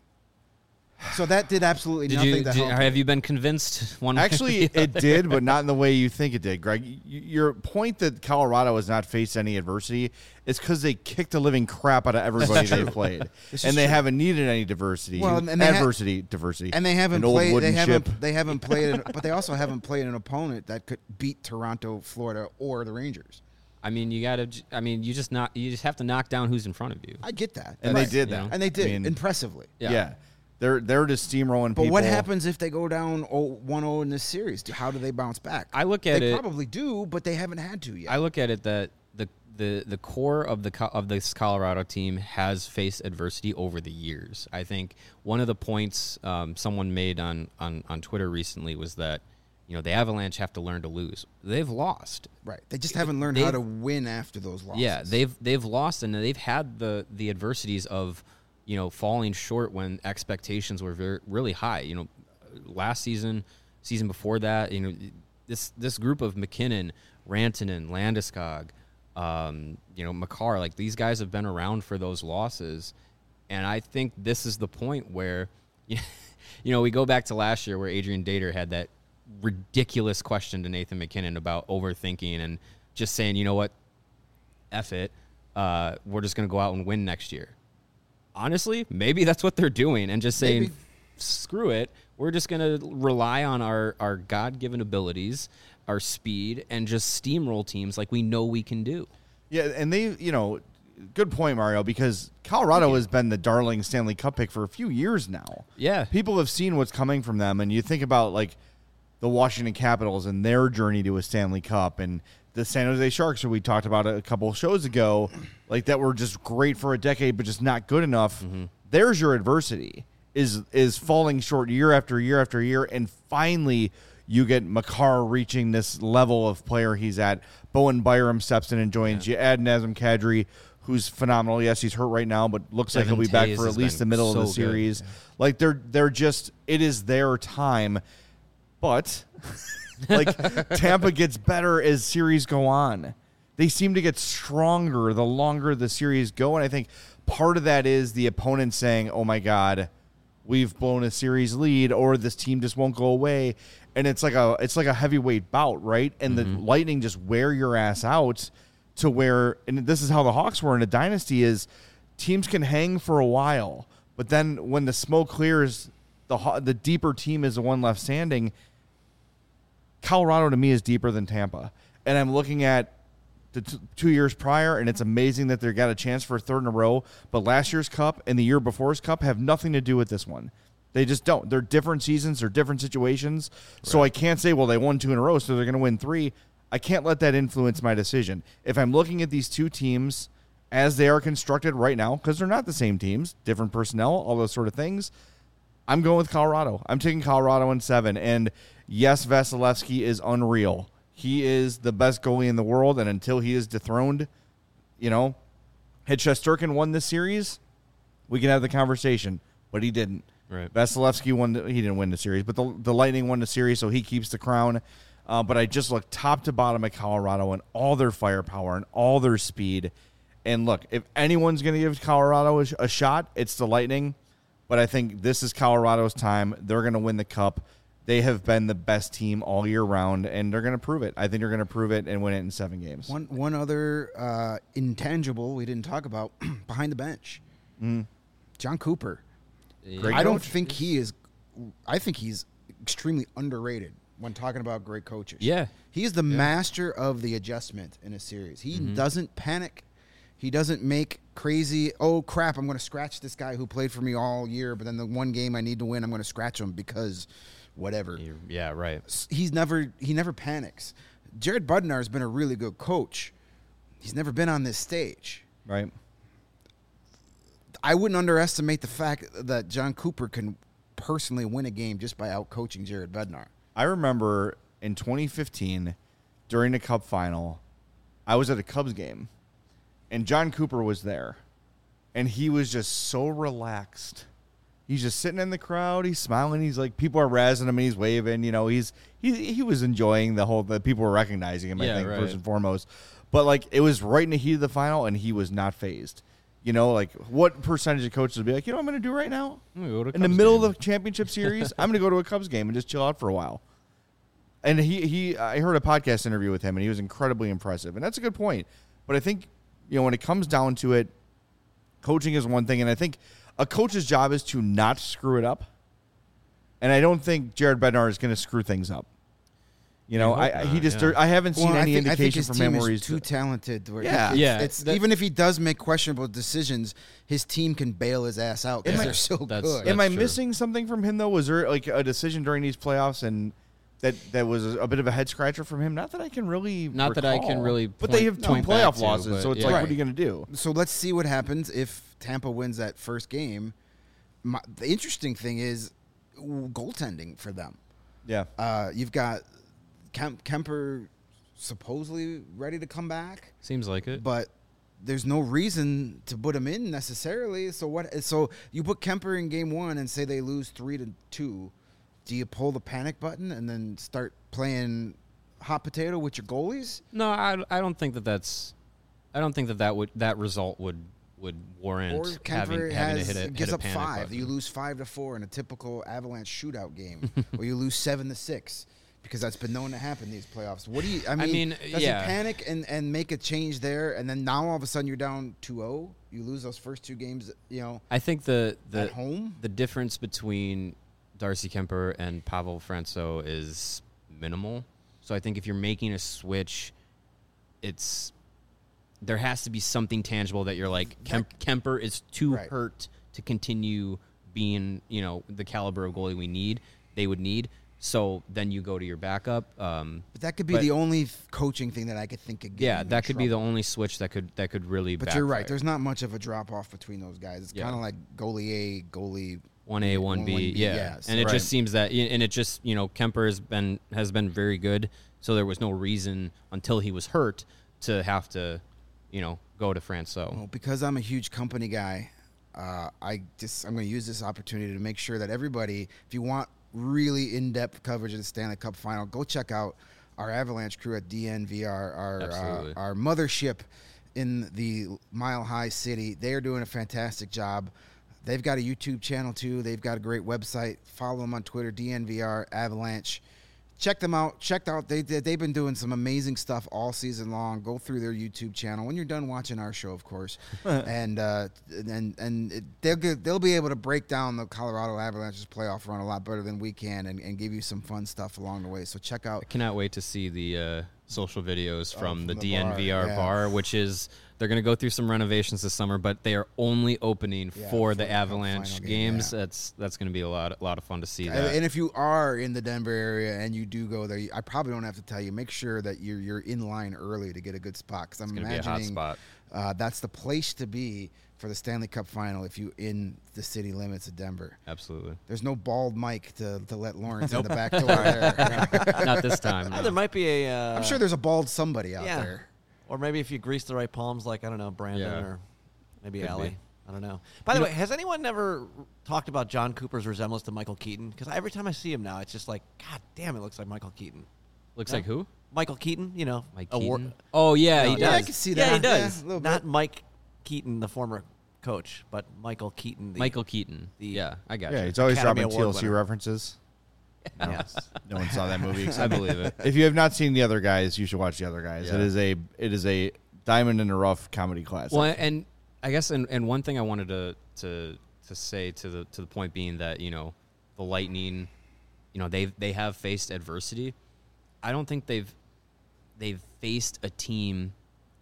Speaker 3: So that did absolutely
Speaker 4: Did
Speaker 3: nothing
Speaker 4: you,
Speaker 3: to
Speaker 4: did,
Speaker 3: help.
Speaker 4: have you been convinced one way or
Speaker 1: Actually,
Speaker 4: the
Speaker 1: it did, but not in the way you think it did, Greg. Y- Your point that Colorado has not faced any adversity is because they kicked the living crap out of everybody they played,
Speaker 3: This
Speaker 1: and
Speaker 3: is
Speaker 1: they
Speaker 3: true.
Speaker 1: haven't needed any diversity.
Speaker 3: Well, and they ha-
Speaker 1: adversity, diversity,
Speaker 3: And they haven't
Speaker 1: An old
Speaker 3: played. They
Speaker 1: wooden
Speaker 3: haven't.
Speaker 1: ship.
Speaker 3: They haven't played. An, but they also haven't played an opponent that could beat Toronto, Florida, or the Rangers.
Speaker 4: I mean, you got to. I mean, you just not. You just have to knock down who's in front of you.
Speaker 3: I get that,
Speaker 1: and
Speaker 3: Right.
Speaker 1: they did
Speaker 4: You
Speaker 1: that,
Speaker 4: know?
Speaker 3: and they did
Speaker 1: I mean,
Speaker 3: impressively.
Speaker 1: yeah.
Speaker 4: Yeah.
Speaker 1: They're they're just steamrolling
Speaker 3: But
Speaker 1: people.
Speaker 3: what happens if they go down one oh in this series? How do they bounce back?
Speaker 4: I look at
Speaker 3: they
Speaker 4: it.
Speaker 3: probably do, but they haven't had to yet.
Speaker 4: I look at it that the the the core of the Co- of this Colorado team has faced adversity over the years. I think one of the points um, someone made on, on on Twitter recently was that you know the Avalanche have to learn to lose. They've lost.
Speaker 3: right. They just haven't learned how
Speaker 4: They've-
Speaker 3: to win after those losses.
Speaker 4: Yeah, they've they've lost and they've had the the adversities of you know falling short when expectations were very really high. You know, last season, season before that, you know, this this group of McKinnon, Rantanen, Landeskog, um, you know, Makar, like these guys have been around for those losses, and I think this is the point where, you know, we go back to last year where Adrian Dater had that ridiculous question to Nathan McKinnon about overthinking and just saying, you know what, F it, uh, we're just going to go out and win next year. Honestly, maybe that's what they're doing and just saying,
Speaker 3: Maybe.
Speaker 4: screw it. We're just going to rely on our, our God-given abilities, our speed, and just steamroll teams like we know we can do.
Speaker 1: Yeah, and they, you know, good point, Mario, because Colorado has been the darling Stanley Cup pick for a few years now.
Speaker 4: Yeah.
Speaker 1: People have seen what's coming from them, and you think about, like, the Washington Capitals and their journey to a Stanley Cup, and the San Jose Sharks, who we talked about a couple of shows ago, like, that were just great for a decade but just not good enough. Mm-hmm. There's your adversity, is is falling short year after year after year, and finally you get Makar reaching this level of player he's at. Bowen Byram steps in and joins.
Speaker 4: Yeah.
Speaker 1: You add Nazem Kadri, who's phenomenal. Yes, he's hurt right now, but looks
Speaker 4: Devin
Speaker 1: like he'll be back
Speaker 4: Taves
Speaker 1: for at
Speaker 4: has
Speaker 1: least the
Speaker 4: been
Speaker 1: middle
Speaker 4: so
Speaker 1: of the
Speaker 4: good.
Speaker 1: series. Like they're they're just it is their time, but like Tampa gets better as series go on. They seem to get stronger the longer the series go, and I think part of that is the opponent saying, "Oh my God, we've blown a series lead," or this team just won't go away. And it's like a it's like a heavyweight bout, right? And
Speaker 4: Mm-hmm.
Speaker 1: the Lightning just wear your ass out to where, and this is how the Hawks were in a dynasty, is teams can hang for a while, but then when the smoke clears, the Haw- the deeper team is the one left standing. Colorado to me is deeper than Tampa, and I'm looking at the t- two years prior, and it's amazing that they got a chance for a third in a row. But last year's Cup and the year before's Cup have nothing to do with this one. They just don't. They're different seasons. They're different situations. So I can't say, well, they won two in a row, so they're going to win three. I can't let that influence my decision. If I'm looking at these two teams as they are constructed right now, because they're not the same teams, different personnel, all those sort of things, I'm going with Colorado. I'm taking Colorado in seven. And yes, Vasilevsky is unreal. He is the best goalie in the world, and until he is dethroned, you know, had Shesterkin won this series, we can have the conversation, but he didn't.
Speaker 4: Right.
Speaker 1: Vasilevsky won. The, he didn't win the series, but the, the Lightning won the series, so he keeps the crown. Uh, but I just look top to bottom at Colorado and all their firepower and all their speed. And look, if anyone's going to give Colorado a, a shot, it's the Lightning. But I think this is Colorado's time. They're going to win the Cup. they have been the best team all year round, and they're going to prove it. I think they're going to prove it and win it in seven games.
Speaker 3: One one other uh, intangible we didn't talk about behind the bench,
Speaker 1: Mm.
Speaker 3: John Cooper.
Speaker 1: Great
Speaker 3: I don't
Speaker 1: coach.
Speaker 3: think he is. I think he's extremely underrated when talking about great coaches.
Speaker 4: Yeah.
Speaker 3: He is the master of the adjustment in a series. He
Speaker 4: Mm-hmm.
Speaker 3: doesn't panic. He doesn't make crazy, oh, crap, I'm going to scratch this guy who played for me all year, but then the one game I need to win, I'm going to scratch him because whatever.
Speaker 4: You're- yeah, right.
Speaker 3: S- He's never he never panics. Jared Bednar has been a really good coach. He's never been on this stage.
Speaker 1: Right?
Speaker 3: I wouldn't underestimate the fact that John Cooper can personally win a game just by out-coaching Jared Bednar.
Speaker 1: I remember in twenty fifteen, during the Cup final, I was at a Cubs game, and John Cooper was there, and he was just so relaxed. He's just sitting in the crowd. He's smiling. He's like, people are razzing him, and he's waving. You know, he's he he was enjoying the whole. The people were recognizing him. I
Speaker 4: Yeah,
Speaker 1: think
Speaker 4: right.
Speaker 1: first and foremost, but like it was right in the heat of the final, and he was not phased. You know, like what percentage of coaches would be like, you know, what I'm going to do right now
Speaker 4: I'm gonna go to a
Speaker 1: in the
Speaker 4: Cubs
Speaker 1: middle
Speaker 4: game.
Speaker 1: of the championship series. I'm going to go to a Cubs game and just chill out for a while. And he, he, I heard a podcast interview with him, and he was incredibly impressive. And that's a good point. But I think, you know, when it comes down to it, coaching is one thing, and I think a coach's job is to not screw it up. And I don't think Jared Bednar is going to screw things up. You know,
Speaker 4: I
Speaker 1: I,
Speaker 4: hope
Speaker 1: I he
Speaker 4: not,
Speaker 1: just
Speaker 4: yeah.
Speaker 1: I haven't seen
Speaker 3: Well, I
Speaker 1: any
Speaker 3: think, I think
Speaker 1: indication
Speaker 3: his
Speaker 1: from
Speaker 3: team
Speaker 1: him where
Speaker 3: is
Speaker 1: he's
Speaker 3: too talented. Where
Speaker 1: Yeah.
Speaker 3: it's,
Speaker 4: Yeah,
Speaker 3: It's,
Speaker 4: that-
Speaker 3: even if he does make questionable decisions, his team can bail his ass out because
Speaker 1: Am I-
Speaker 3: they're so
Speaker 4: That's-
Speaker 3: good.
Speaker 4: that's
Speaker 1: Am I
Speaker 4: true.
Speaker 1: missing something from him though? Was there like a decision during these playoffs and that that was a bit of a head scratcher from him? Not that I can really,
Speaker 4: Not that I can
Speaker 1: recall.
Speaker 4: really
Speaker 1: But they
Speaker 4: point-
Speaker 1: have two
Speaker 4: point back
Speaker 1: playoff
Speaker 4: to,
Speaker 1: losses,
Speaker 4: but
Speaker 1: so it's
Speaker 4: yeah.
Speaker 1: like,
Speaker 3: Right.
Speaker 1: what are you going to do?
Speaker 3: So let's see what happens if Tampa wins that first game. My, the interesting thing is goaltending for them.
Speaker 1: Yeah,
Speaker 3: Uh, you've got Kemp, Kemper supposedly ready to come back,
Speaker 4: Seems like it.
Speaker 3: but there's no reason to put him in necessarily. So what? So you put Kemper in game one and say they lose three to two. Do you pull the panic button and then start playing hot potato with your goalies?
Speaker 4: No, I, I don't think that that's. I don't think that that would that result would would warrant
Speaker 3: Or Kemper
Speaker 4: having having
Speaker 3: has
Speaker 4: to hit a
Speaker 3: gives
Speaker 4: hit a
Speaker 3: up
Speaker 4: panic
Speaker 3: five.
Speaker 4: button.
Speaker 3: You lose five to four in a typical Avalanche shootout game, or you lose seven to six, because that's been known to happen in these playoffs. What do you? I mean,
Speaker 4: mean,
Speaker 3: does
Speaker 4: yeah.
Speaker 3: he panic and, and make a change there, and then now all of a sudden you're down two oh? You lose those first two games, you know,
Speaker 4: I think the the
Speaker 3: at home.
Speaker 4: the difference between Darcy Kemper and Pavel Franco is minimal. So I think if you're making a switch, it's there has to be something tangible that you're like Kemp, Kemper is too
Speaker 3: Right.
Speaker 4: hurt to continue being, you know, the caliber of goalie we need. They would need. So then you go to your backup. Um,
Speaker 3: But that could be
Speaker 4: but-
Speaker 3: the only th- coaching thing that I could think of.
Speaker 4: yeah, that could be the only switch that could that could really.
Speaker 3: But you're right.
Speaker 4: backfire.
Speaker 3: There's not much of a drop off between those guys. It's
Speaker 4: Yeah.
Speaker 3: kind of like goalie A, goalie.
Speaker 4: One A, one B,
Speaker 3: one B,
Speaker 4: yeah.
Speaker 3: yes.
Speaker 4: And it
Speaker 1: Right.
Speaker 4: just seems that, and it just, you know, Kemper has been has been very good. So there was no reason until he was hurt to have to, you know, go to France. So
Speaker 3: Well, because I'm a huge company guy, uh, I just I'm going to use this opportunity to make sure that everybody, if you want really in-depth coverage of the Stanley Cup Final, go check out our Avalanche crew at D N V R, our uh,
Speaker 4: Absolutely.
Speaker 3: our mothership in the Mile High City. They are doing a fantastic job. They've got a YouTube channel too. They've got a great website. Follow them on Twitter, D N V R Avalanche. Check them out. Check out. They they- they've been doing some amazing stuff all season long. Go through their YouTube channel when you're done watching our show, of course, and uh, and and it, they'll get, they'll be able to break down the Colorado Avalanche's playoff run a lot better than we can, and, and give you some fun stuff along the way. So check out.
Speaker 4: I cannot wait to see the uh, social videos from
Speaker 3: from
Speaker 4: the,
Speaker 3: the
Speaker 4: D N V R
Speaker 3: bar,
Speaker 4: bar,
Speaker 3: yeah.
Speaker 4: which is they're going to go through some renovations this summer, but they are only opening
Speaker 3: Yeah,
Speaker 4: for
Speaker 3: for
Speaker 4: the
Speaker 3: the Cup
Speaker 4: Avalanche
Speaker 3: final game,
Speaker 4: games.
Speaker 3: yeah.
Speaker 4: That's that's going to be a lot a lot of fun to see
Speaker 3: And
Speaker 4: that.
Speaker 3: and if you are in the Denver area and you do go there, you- I probably don't have to tell you. Make sure that you're you're in line early to get a good spot, because I'm
Speaker 4: It's going to be a hot
Speaker 3: imagining
Speaker 4: spot.
Speaker 3: uh, that's the place to be for the Stanley Cup Final if you in the city limits of Denver.
Speaker 4: Absolutely.
Speaker 3: There's no bald Mike to, to let Lawrence in the back door there.
Speaker 4: Not this time.
Speaker 2: Uh,
Speaker 4: no.
Speaker 2: there might be a. Uh,
Speaker 3: I'm sure there's a bald somebody out
Speaker 2: yeah.
Speaker 3: there.
Speaker 2: Or maybe if you grease the right palms, like I don't know, Brandon
Speaker 4: Yeah.
Speaker 2: or maybe
Speaker 4: Could
Speaker 2: Allie.
Speaker 4: be.
Speaker 2: I don't know. By the
Speaker 4: You
Speaker 2: way, has anyone ever talked about John Cooper's resemblance to Michael Keaton? Because every time I see him now, it's just like, God damn, it looks like Michael Keaton.
Speaker 4: Looks
Speaker 2: No?
Speaker 4: like who?
Speaker 2: Michael Keaton, you know,
Speaker 4: Mike
Speaker 2: award-
Speaker 4: Keaton? Oh yeah,
Speaker 2: No,
Speaker 4: he
Speaker 2: no.
Speaker 3: Yeah, I
Speaker 4: does.
Speaker 3: can see
Speaker 2: Yeah,
Speaker 3: that.
Speaker 2: he does.
Speaker 3: Yeah, a little
Speaker 2: Not
Speaker 3: bit.
Speaker 2: Mike Keaton, the former coach, but Michael Keaton. The,
Speaker 4: Michael Keaton.
Speaker 2: the-
Speaker 4: yeah, I got
Speaker 1: yeah.
Speaker 4: you.
Speaker 1: He's always
Speaker 2: Academy
Speaker 1: dropping
Speaker 2: Award
Speaker 1: T L C
Speaker 2: winner.
Speaker 1: references. No,
Speaker 2: Yes.
Speaker 1: no one saw that movie.
Speaker 4: I
Speaker 1: Except
Speaker 4: believe it.
Speaker 1: if you have not seen The Other Guys, you should watch The Other Guys.
Speaker 4: Yeah.
Speaker 1: It is a it is a diamond in the rough comedy classic.
Speaker 4: Well, and I guess, and, and one thing I wanted to to to say to the to the point being that, you know, the Lightning, you know, they they have faced adversity. I don't think they've they've faced a team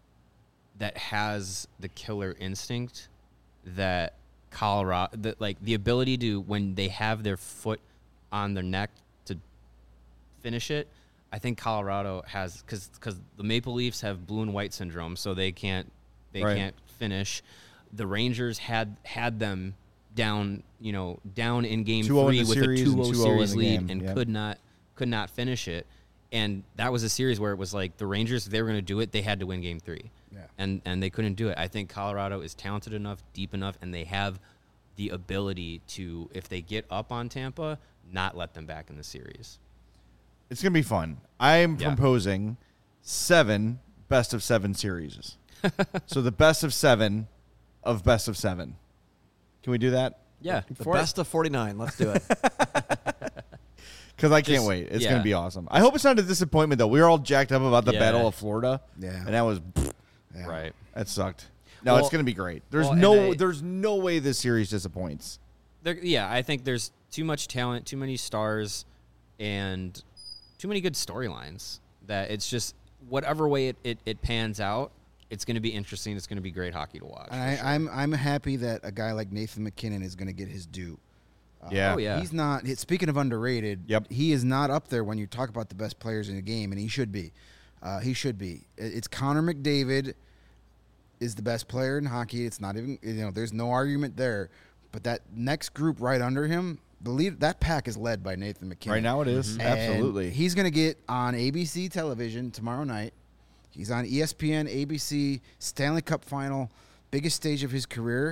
Speaker 4: that has the killer instinct that Colorado, that like the ability to, when they have their foot on their neck, to finish it. I think Colorado has, because because the Maple Leafs have blue and white syndrome, so they can't they
Speaker 1: Right.
Speaker 4: can't finish. The Rangers had had them down, you know, down in game
Speaker 1: two oh in
Speaker 4: three
Speaker 1: the
Speaker 4: with
Speaker 1: series
Speaker 4: a
Speaker 1: and
Speaker 4: two oh
Speaker 1: two oh in
Speaker 4: series
Speaker 1: the
Speaker 4: lead
Speaker 1: game.
Speaker 4: and
Speaker 1: Yep.
Speaker 4: could not could not finish it. And that was a series where it was like the Rangers, if they were going to do it, they had to win game three.
Speaker 3: Yeah.
Speaker 4: And and they couldn't do it. I think Colorado is talented enough, deep enough, and they have the ability to, if they get up on Tampa, not let them back in the series.
Speaker 1: It's gonna be fun. I'm
Speaker 4: Yeah.
Speaker 1: proposing seven best of seven series. So the best of seven of best of seven. Can we do that?
Speaker 4: Yeah.
Speaker 2: The best of forty-nine. Let's do it.
Speaker 1: Because I can't
Speaker 4: Just-
Speaker 1: wait. It's
Speaker 4: yeah.
Speaker 1: gonna be awesome. I hope it's not a disappointment though. We were all jacked up about the
Speaker 4: Yeah.
Speaker 1: Battle of Florida.
Speaker 3: Yeah.
Speaker 1: And that was
Speaker 3: Yeah.
Speaker 4: Right.
Speaker 1: that sucked. No,
Speaker 4: Well-
Speaker 1: it's gonna be great. There's
Speaker 4: well, and
Speaker 1: no
Speaker 4: I-
Speaker 1: there's no way this series disappoints.
Speaker 4: There, yeah, I think there's too much talent, too many stars, and too many good storylines that it's just whatever way it, it, it pans out, it's going to be interesting. It's going to be great hockey to watch.
Speaker 3: And I, I'm I'm happy that a guy like Nathan McKinnon is going to get his due. Uh,
Speaker 1: Yeah.
Speaker 4: Oh, yeah.
Speaker 3: He's not. he- Speaking of underrated,
Speaker 1: Yep.
Speaker 3: he is not up there when you talk about the best players in the game, and he should be. Uh, he should be. It- It's Connor McDavid is the best player in hockey. It's not even, you know, there's no argument there. But that next group right under him, the lead, that pack is led by Nathan McKinnon.
Speaker 1: Right now it is.
Speaker 3: And
Speaker 1: Absolutely.
Speaker 3: He's going to get on A B C television tomorrow night. He's on E S P N, A B C, Stanley Cup final, biggest stage of his career.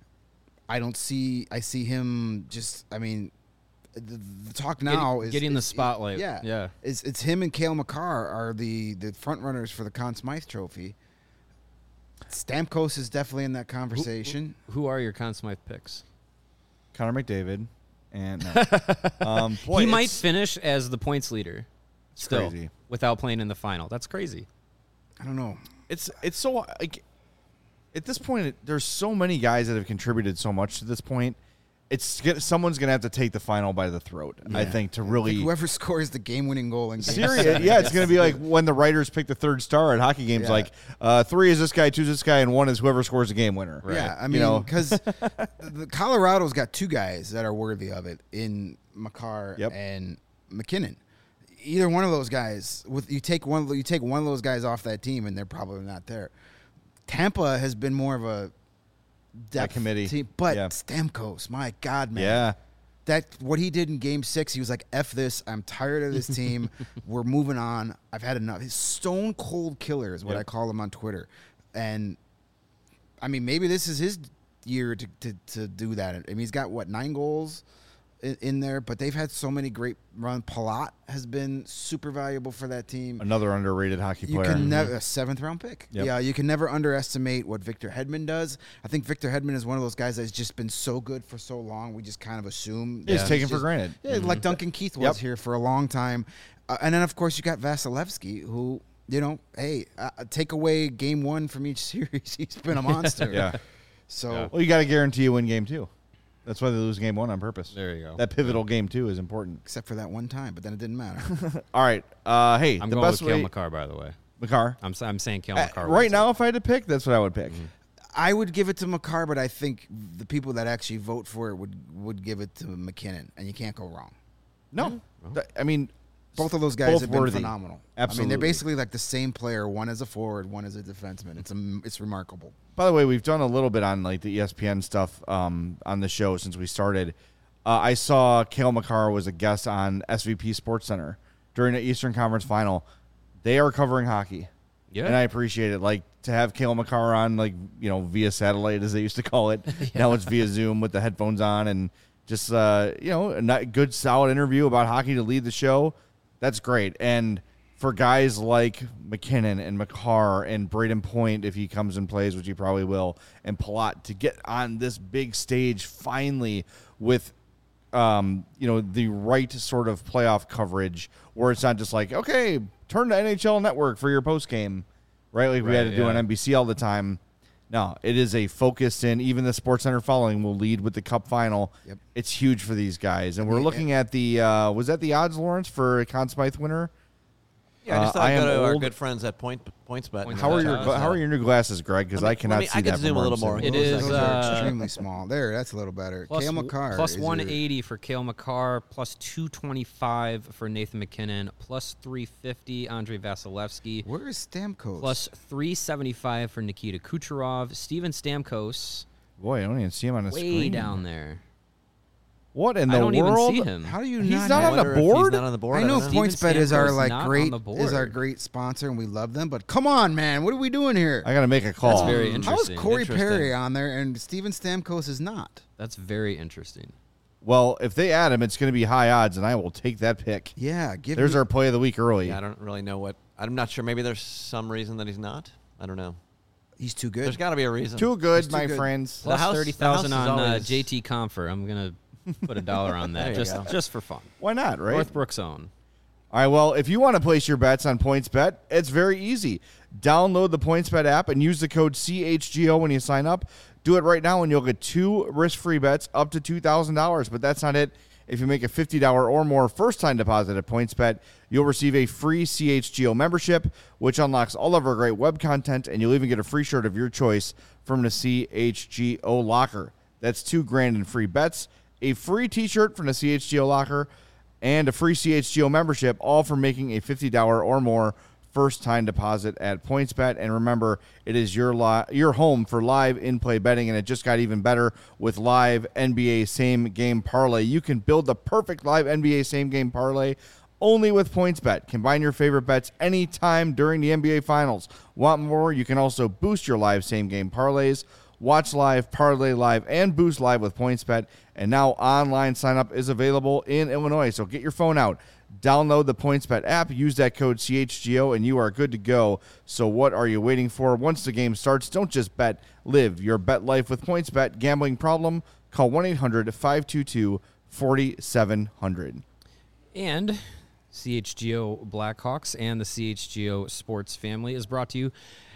Speaker 3: I don't see, I see him just, I mean, the, the talk now is
Speaker 4: getting the
Speaker 3: is-
Speaker 4: spotlight.
Speaker 3: Yeah,
Speaker 4: Yeah.
Speaker 3: It's it's him and Cale Makar are the the front runners for the Conn Smythe Trophy. Stamkos is definitely in that conversation.
Speaker 4: Who are your Conn Smythe picks?
Speaker 1: Connor McDavid and no. um, boy,
Speaker 4: he might
Speaker 1: it's-
Speaker 4: finish as the points leader still
Speaker 1: crazy.
Speaker 4: without playing in the final. That's crazy.
Speaker 3: I don't know.
Speaker 1: It's it's so like at this point, it, there's so many guys that have contributed so much to this point. It's get- someone's gonna have to take the final by the throat. I
Speaker 3: Yeah.
Speaker 1: think to
Speaker 3: Like
Speaker 1: really
Speaker 3: whoever scores the game-winning goal in game
Speaker 1: serious.
Speaker 3: seven.
Speaker 1: Yeah, it's gonna be like when the writers pick the third star at hockey games.
Speaker 3: Yeah.
Speaker 1: Like uh, three is this guy, two is this guy, and one is whoever scores the game winner.
Speaker 3: Yeah, I
Speaker 1: You
Speaker 3: mean,
Speaker 1: know?
Speaker 3: because the Colorado's got two guys that are worthy of it in Makar
Speaker 1: Yep.
Speaker 3: and McKinnon. Either one of those guys, with you take one, you take one of those guys off that team, and they're probably not there. Tampa has been more of a depth
Speaker 1: committee.
Speaker 3: team, but
Speaker 1: Yeah.
Speaker 3: Stamkos, my God, man,
Speaker 1: Yeah.
Speaker 3: that what he did in Game Six, he was like, "F this, I'm tired of this team. We're moving on. I've had enough." His stone cold killer is what
Speaker 1: Yep.
Speaker 3: I call him on Twitter, and I mean, maybe this is his year to, to, to do that. I mean, he's got what nine goals in, in there, but they've had so many great runs. Palat has been super valuable for that team.
Speaker 1: Another underrated hockey
Speaker 3: You
Speaker 1: player.
Speaker 3: can never a seventh round pick.
Speaker 1: Yep.
Speaker 3: Yeah, you can never underestimate what Victor Hedman does. I think Victor Hedman is one of those guys that's just been so good for so long. We just kind of assume
Speaker 1: He's
Speaker 3: that
Speaker 1: taken
Speaker 3: he's
Speaker 1: for
Speaker 3: just-
Speaker 1: granted.
Speaker 3: Yeah, like Duncan Keith was
Speaker 1: Yep.
Speaker 3: here for a long time, uh, and then of course you got Vasilevsky, who you know, hey, uh, take away game one from each series, he's been a monster.
Speaker 1: Yeah.
Speaker 3: So
Speaker 4: Yeah.
Speaker 1: Well, you got to guarantee you win game two. That's why they lose game one on purpose.
Speaker 4: There you go.
Speaker 1: That pivotal game two is important.
Speaker 3: except for that one time, but then it didn't matter.
Speaker 1: All right. Uh, hey,
Speaker 4: I'm
Speaker 1: the
Speaker 4: going
Speaker 1: best
Speaker 4: with Cale
Speaker 1: way.
Speaker 4: Makar, by the way.
Speaker 1: Makar.
Speaker 4: I'm, s- I'm saying Cale
Speaker 1: Uh,
Speaker 4: Makar.
Speaker 1: right
Speaker 4: wins
Speaker 1: now,
Speaker 4: it.
Speaker 1: if I had to pick, that's what I would pick.
Speaker 3: I would give it to Makar, but I think the people that actually vote for it would would give it to McKinnon, and you can't go wrong.
Speaker 1: No, Th- I mean
Speaker 3: Both of those guys
Speaker 1: both
Speaker 3: have been
Speaker 1: worthy.
Speaker 3: phenomenal. I mean,
Speaker 1: Absolutely.
Speaker 3: they're basically like the same player, one as a forward, one as a defenseman. It's a, it's remarkable.
Speaker 1: By the way, we've done a little bit on like the E S P N stuff um, on the show since we started. Uh, I saw Cale Makar was a guest on S V P Sports Center during the Eastern Conference Final. They are covering hockey,
Speaker 4: Yeah.
Speaker 1: and I appreciate it. Like to have Cale Makar on, like you know, via satellite as they used to call it. Now it's via Zoom with the headphones on, and just uh, you know, a ni- good solid interview about hockey to lead the show. That's great, and for guys like McKinnon and Makar and Braden Point, if he comes and plays, which he probably will, and Palat to get on this big stage finally with um, you know, the right sort of playoff coverage where it's not just like, okay, turn to N H L Network for your post game, right? Like we had
Speaker 2: Right,
Speaker 1: to do
Speaker 2: yeah.
Speaker 1: on N B C all the time. No, it is a focused in. Even the SportsCenter following will lead with the Cup final.
Speaker 3: Yep.
Speaker 1: It's huge for these guys, and we're
Speaker 3: Yeah.
Speaker 1: looking at the uh, was that the odds, Lawrence, for a Conn Smythe winner?
Speaker 2: Yeah, I just
Speaker 1: Uh,
Speaker 2: thought
Speaker 1: I
Speaker 2: I'd go
Speaker 1: am
Speaker 2: to our
Speaker 1: old.
Speaker 2: good friends at Point PointsBet.
Speaker 4: Points
Speaker 1: How are
Speaker 4: Yeah,
Speaker 1: your
Speaker 4: yeah.
Speaker 1: gla- how are your new glasses, Greg? Because
Speaker 2: Let me-
Speaker 1: I cannot
Speaker 2: let me-
Speaker 1: see
Speaker 2: I
Speaker 1: that.
Speaker 2: can zoom
Speaker 1: from
Speaker 2: a
Speaker 1: where
Speaker 2: little
Speaker 1: I'm
Speaker 2: more.
Speaker 1: sitting.
Speaker 4: It
Speaker 3: Those
Speaker 4: is,
Speaker 3: are- those are
Speaker 4: uh,
Speaker 3: extremely small. There, that's a little better.
Speaker 4: Plus,
Speaker 3: Kale McCarr
Speaker 4: plus
Speaker 3: is your-
Speaker 4: one eighty for Kale McCarr, plus two twenty-five for Nathan McKinnon, plus three fifty Andrei Vasilevsky,
Speaker 3: Where is Stamkos?
Speaker 4: plus three seventy-five for Nikita Kucherov. Steven Stamkos,
Speaker 1: Boy, I don't even see him on the
Speaker 4: way
Speaker 1: screen.
Speaker 4: down there.
Speaker 1: What in the
Speaker 4: I don't
Speaker 1: world?
Speaker 4: even see him.
Speaker 3: How do you
Speaker 1: He's
Speaker 3: not?
Speaker 1: not
Speaker 3: have-
Speaker 1: on the
Speaker 2: Wonder if
Speaker 1: board?
Speaker 2: He's not on the board.
Speaker 3: I know
Speaker 2: don't
Speaker 3: PointsBet is our
Speaker 4: Stamkos
Speaker 3: like
Speaker 4: not on
Speaker 3: great
Speaker 4: the
Speaker 3: is our
Speaker 4: board.
Speaker 3: great sponsor, and we love them. But come on, man, what are we doing here?
Speaker 1: I got to make a call.
Speaker 4: That's very
Speaker 3: How is
Speaker 4: interesting.
Speaker 3: Corey
Speaker 2: Interesting.
Speaker 3: Perry on there and Steven Stamkos is not?
Speaker 4: That's very interesting.
Speaker 1: Well, if they add him, it's going to be high odds, and I will take that pick.
Speaker 3: Yeah, give
Speaker 1: There's
Speaker 3: me,
Speaker 1: our play of the week early.
Speaker 2: Yeah, I don't really know what. I'm not sure. Maybe there's some reason that he's not. I don't know.
Speaker 3: he's too good.
Speaker 2: There's got to be a reason.
Speaker 1: Too good,
Speaker 3: He's too
Speaker 1: my
Speaker 3: good.
Speaker 1: friends.
Speaker 2: The
Speaker 4: Plus
Speaker 2: house-
Speaker 4: thirty
Speaker 2: the house
Speaker 4: thousand
Speaker 2: is
Speaker 4: on uh,
Speaker 2: always-
Speaker 4: J T Confer. I'm gonna put a dollar on
Speaker 2: There
Speaker 4: that
Speaker 2: you
Speaker 4: just
Speaker 2: go.
Speaker 4: just for fun.
Speaker 1: Why not, right?
Speaker 4: Northbrook's own.
Speaker 1: All right, well, if you want to place your bets on PointsBet, it's very easy. Download the PointsBet app and use the code C H G O when you sign up. Do it right now and you'll get two risk-free bets up to two thousand dollars. But that's not it. If you make a fifty dollars or more first-time deposit at PointsBet, you'll receive a free C H G O membership, which unlocks all of our great web content, and you'll even get a free shirt of your choice from the C H G O locker. That's two grand in free bets, a free t-shirt from the C H G O locker, and a free C H G O membership, all for making a fifty dollars or more first-time deposit at PointsBet. And remember, it is your li- your home for live in-play betting, and it just got even better with live N B A same-game parlay. You can build the perfect live N B A same-game parlay only with PointsBet. Combine your favorite bets anytime during the N B A Finals. Want more? You can also boost your live same-game parlays. Watch live, parlay live, and boost live with PointsBet. And now online sign-up is available in Illinois. So get your phone out, download the PointsBet app, use that code C H G O, and you are good to go. So what are you waiting for? Once the game starts, don't just bet. Live your bet life with PointsBet. Gambling problem? Call one eight hundred five two two four seven zero zero.
Speaker 4: And C H G O Blackhawks and the C H G O Sports family is brought to you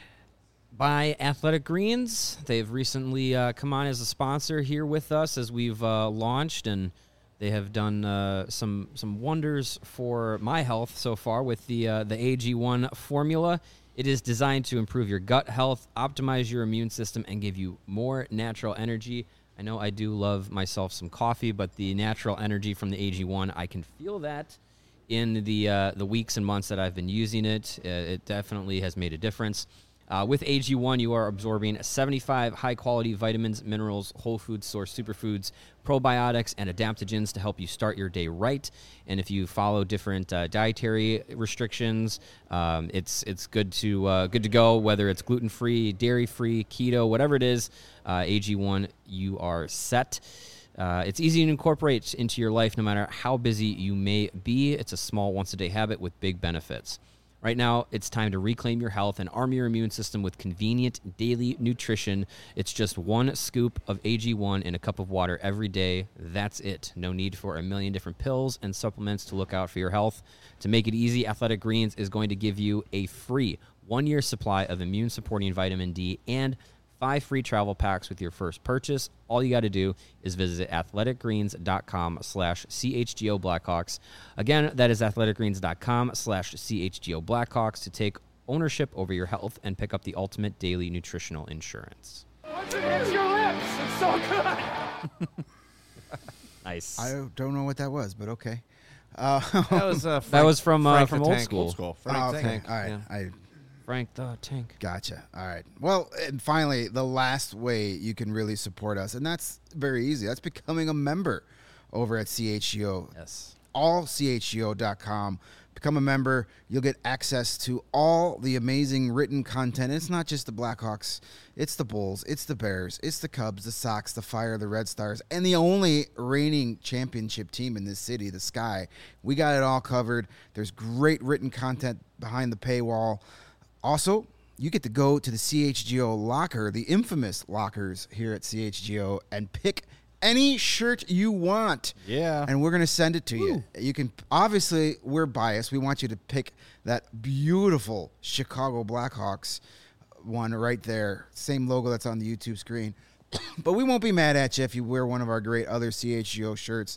Speaker 4: by Athletic Greens. They've recently uh, come on as a sponsor here with us as we've uh, launched, and they have done uh, some some wonders for my health so far with the uh, the A G one formula. It is designed to improve your gut health, optimize your immune system, and give you more natural energy. I know I do love myself some coffee, but the natural energy from the A G one, I can feel that in the uh, the weeks and months that I've been using it. Uh, it definitely has made a difference. Uh, with A G one, you are absorbing seventy-five high-quality vitamins, minerals, whole food source superfoods, probiotics, and adaptogens to help you start your day right. And if you follow different uh, dietary restrictions, um, it's it's good to uh, good to go. Whether it's gluten-free, dairy-free, keto, whatever it is, uh, A G one, you are set. Uh, it's easy to incorporate into your life no matter how busy you may be. It's a small once-a-day habit with big benefits. Right now, it's time to reclaim your health and arm your immune system with convenient daily nutrition. It's just one scoop of A G one in a cup of water every day. That's it. No need for a million different pills and supplements to look out for your health. To make it easy, Athletic Greens is going to give you a free one-year supply of immune-supporting vitamin D and five free travel packs with your first purchase. All you got to do is visit athleticgreens.com slash CHGO Blackhawks. Again, that is athleticgreens.com slash CHGO Blackhawks to take ownership over your health and pick up the ultimate daily nutritional insurance.
Speaker 5: Once it hits your lips, it's so good.
Speaker 4: Nice.
Speaker 3: I don't know what that was, but okay. Uh,
Speaker 2: That was uh, Frank,
Speaker 4: that was from uh,
Speaker 2: Frank
Speaker 4: from
Speaker 2: the
Speaker 4: old
Speaker 2: Tank.
Speaker 4: school.
Speaker 1: Old school.
Speaker 2: Frank
Speaker 3: oh,
Speaker 2: the
Speaker 3: okay.
Speaker 2: Tank.
Speaker 3: All right.
Speaker 2: Yeah.
Speaker 3: I
Speaker 4: Frank the Tank.
Speaker 3: Gotcha. All right. Well, and finally, the last way you can really support us, and that's very easy. That's becoming a member over at C H G O.
Speaker 4: Yes.
Speaker 3: all C H G O dot com. Become a member. You'll get access to all the amazing written content. It's not just the Blackhawks. It's the Bulls. It's the Bears. It's the Cubs, the Sox, the Fire, the Red Stars, and the only reigning championship team in this city, the Sky. We got it all covered. There's great written content behind the paywall. Also, you get to go to the C H G O locker, the infamous lockers here at C H G O, and pick any shirt you want.
Speaker 1: Yeah.
Speaker 3: And we're going to send it to you. You can, obviously, we're biased. We want you to pick that beautiful Chicago Blackhawks one right there. Same logo that's on the YouTube screen. But we won't be mad at you if you wear one of our great other C H G O shirts.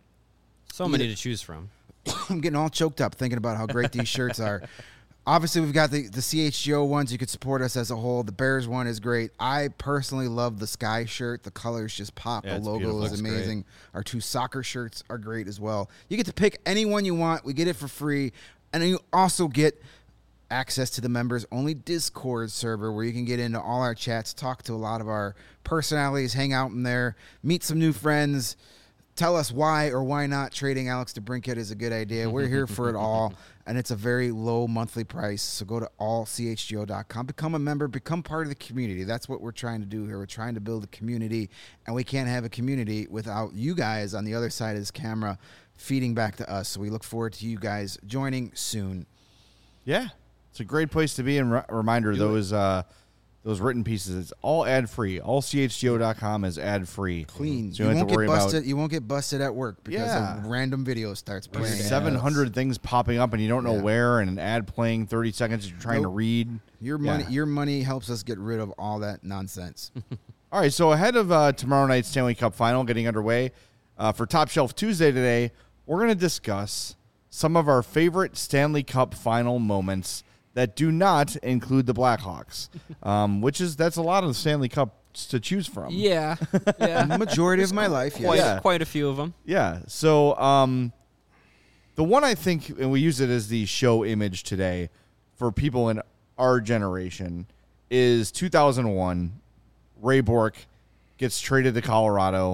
Speaker 4: So many to choose from.
Speaker 3: I'm getting all choked up thinking about how great these shirts are. Obviously, we've got the, the C H G O ones. You could support us as a whole. The Bears one is great. I personally love the Sky shirt. The colors just pop.
Speaker 1: Yeah,
Speaker 3: the
Speaker 1: it's
Speaker 3: logo
Speaker 1: beautiful.
Speaker 3: is
Speaker 1: Looks
Speaker 3: amazing. Our two soccer shirts are great as well. You get to pick any one you want. We get it for free. And then you also get access to the members-only Discord server where you can get into all our chats, talk to a lot of our personalities, hang out in there, meet some new friends, tell us why or why not trading Alex DeBrincat is a good idea. We're here for it all, and it's a very low monthly price. So go to all c h g o dot com, become a member, become part of the community. That's what we're trying to do here. We're trying to build a community, and we can't have a community without you guys on the other side of this camera feeding back to us. So we look forward to you guys joining soon.
Speaker 1: Yeah. It's a great place to be. And re- reminder, those uh, those written pieces, it's all ad-free. all c h g o dot com is ad-free.
Speaker 3: Clean.
Speaker 1: So
Speaker 3: you,
Speaker 1: you, don't
Speaker 3: won't
Speaker 1: have to
Speaker 3: get
Speaker 1: worry
Speaker 3: busted.
Speaker 1: about
Speaker 3: You won't get busted at work because
Speaker 1: Yeah.
Speaker 3: a random video starts playing.
Speaker 1: seven hundred things popping up and you don't know
Speaker 3: Yeah.
Speaker 1: where, and an ad playing thirty seconds you're trying
Speaker 3: Nope.
Speaker 1: to read.
Speaker 3: Your money,
Speaker 1: Yeah.
Speaker 3: your money helps us get rid of all that nonsense.
Speaker 1: All right, so ahead of uh, tomorrow night's Stanley Cup final getting underway, uh, for Top Shelf Tuesday today, we're going to discuss some of our favorite Stanley Cup final moments that do not include the Blackhawks, um, which is that's a lot of the Stanley Cups to choose from.
Speaker 4: Yeah. Yeah.
Speaker 3: The majority of my life, yes.
Speaker 4: Quite,
Speaker 1: Yeah.
Speaker 4: quite a few of them.
Speaker 1: Yeah. So um, the one I think, and we use it as the show image today for people in our generation, is two thousand one. Ray Bourque gets traded to Colorado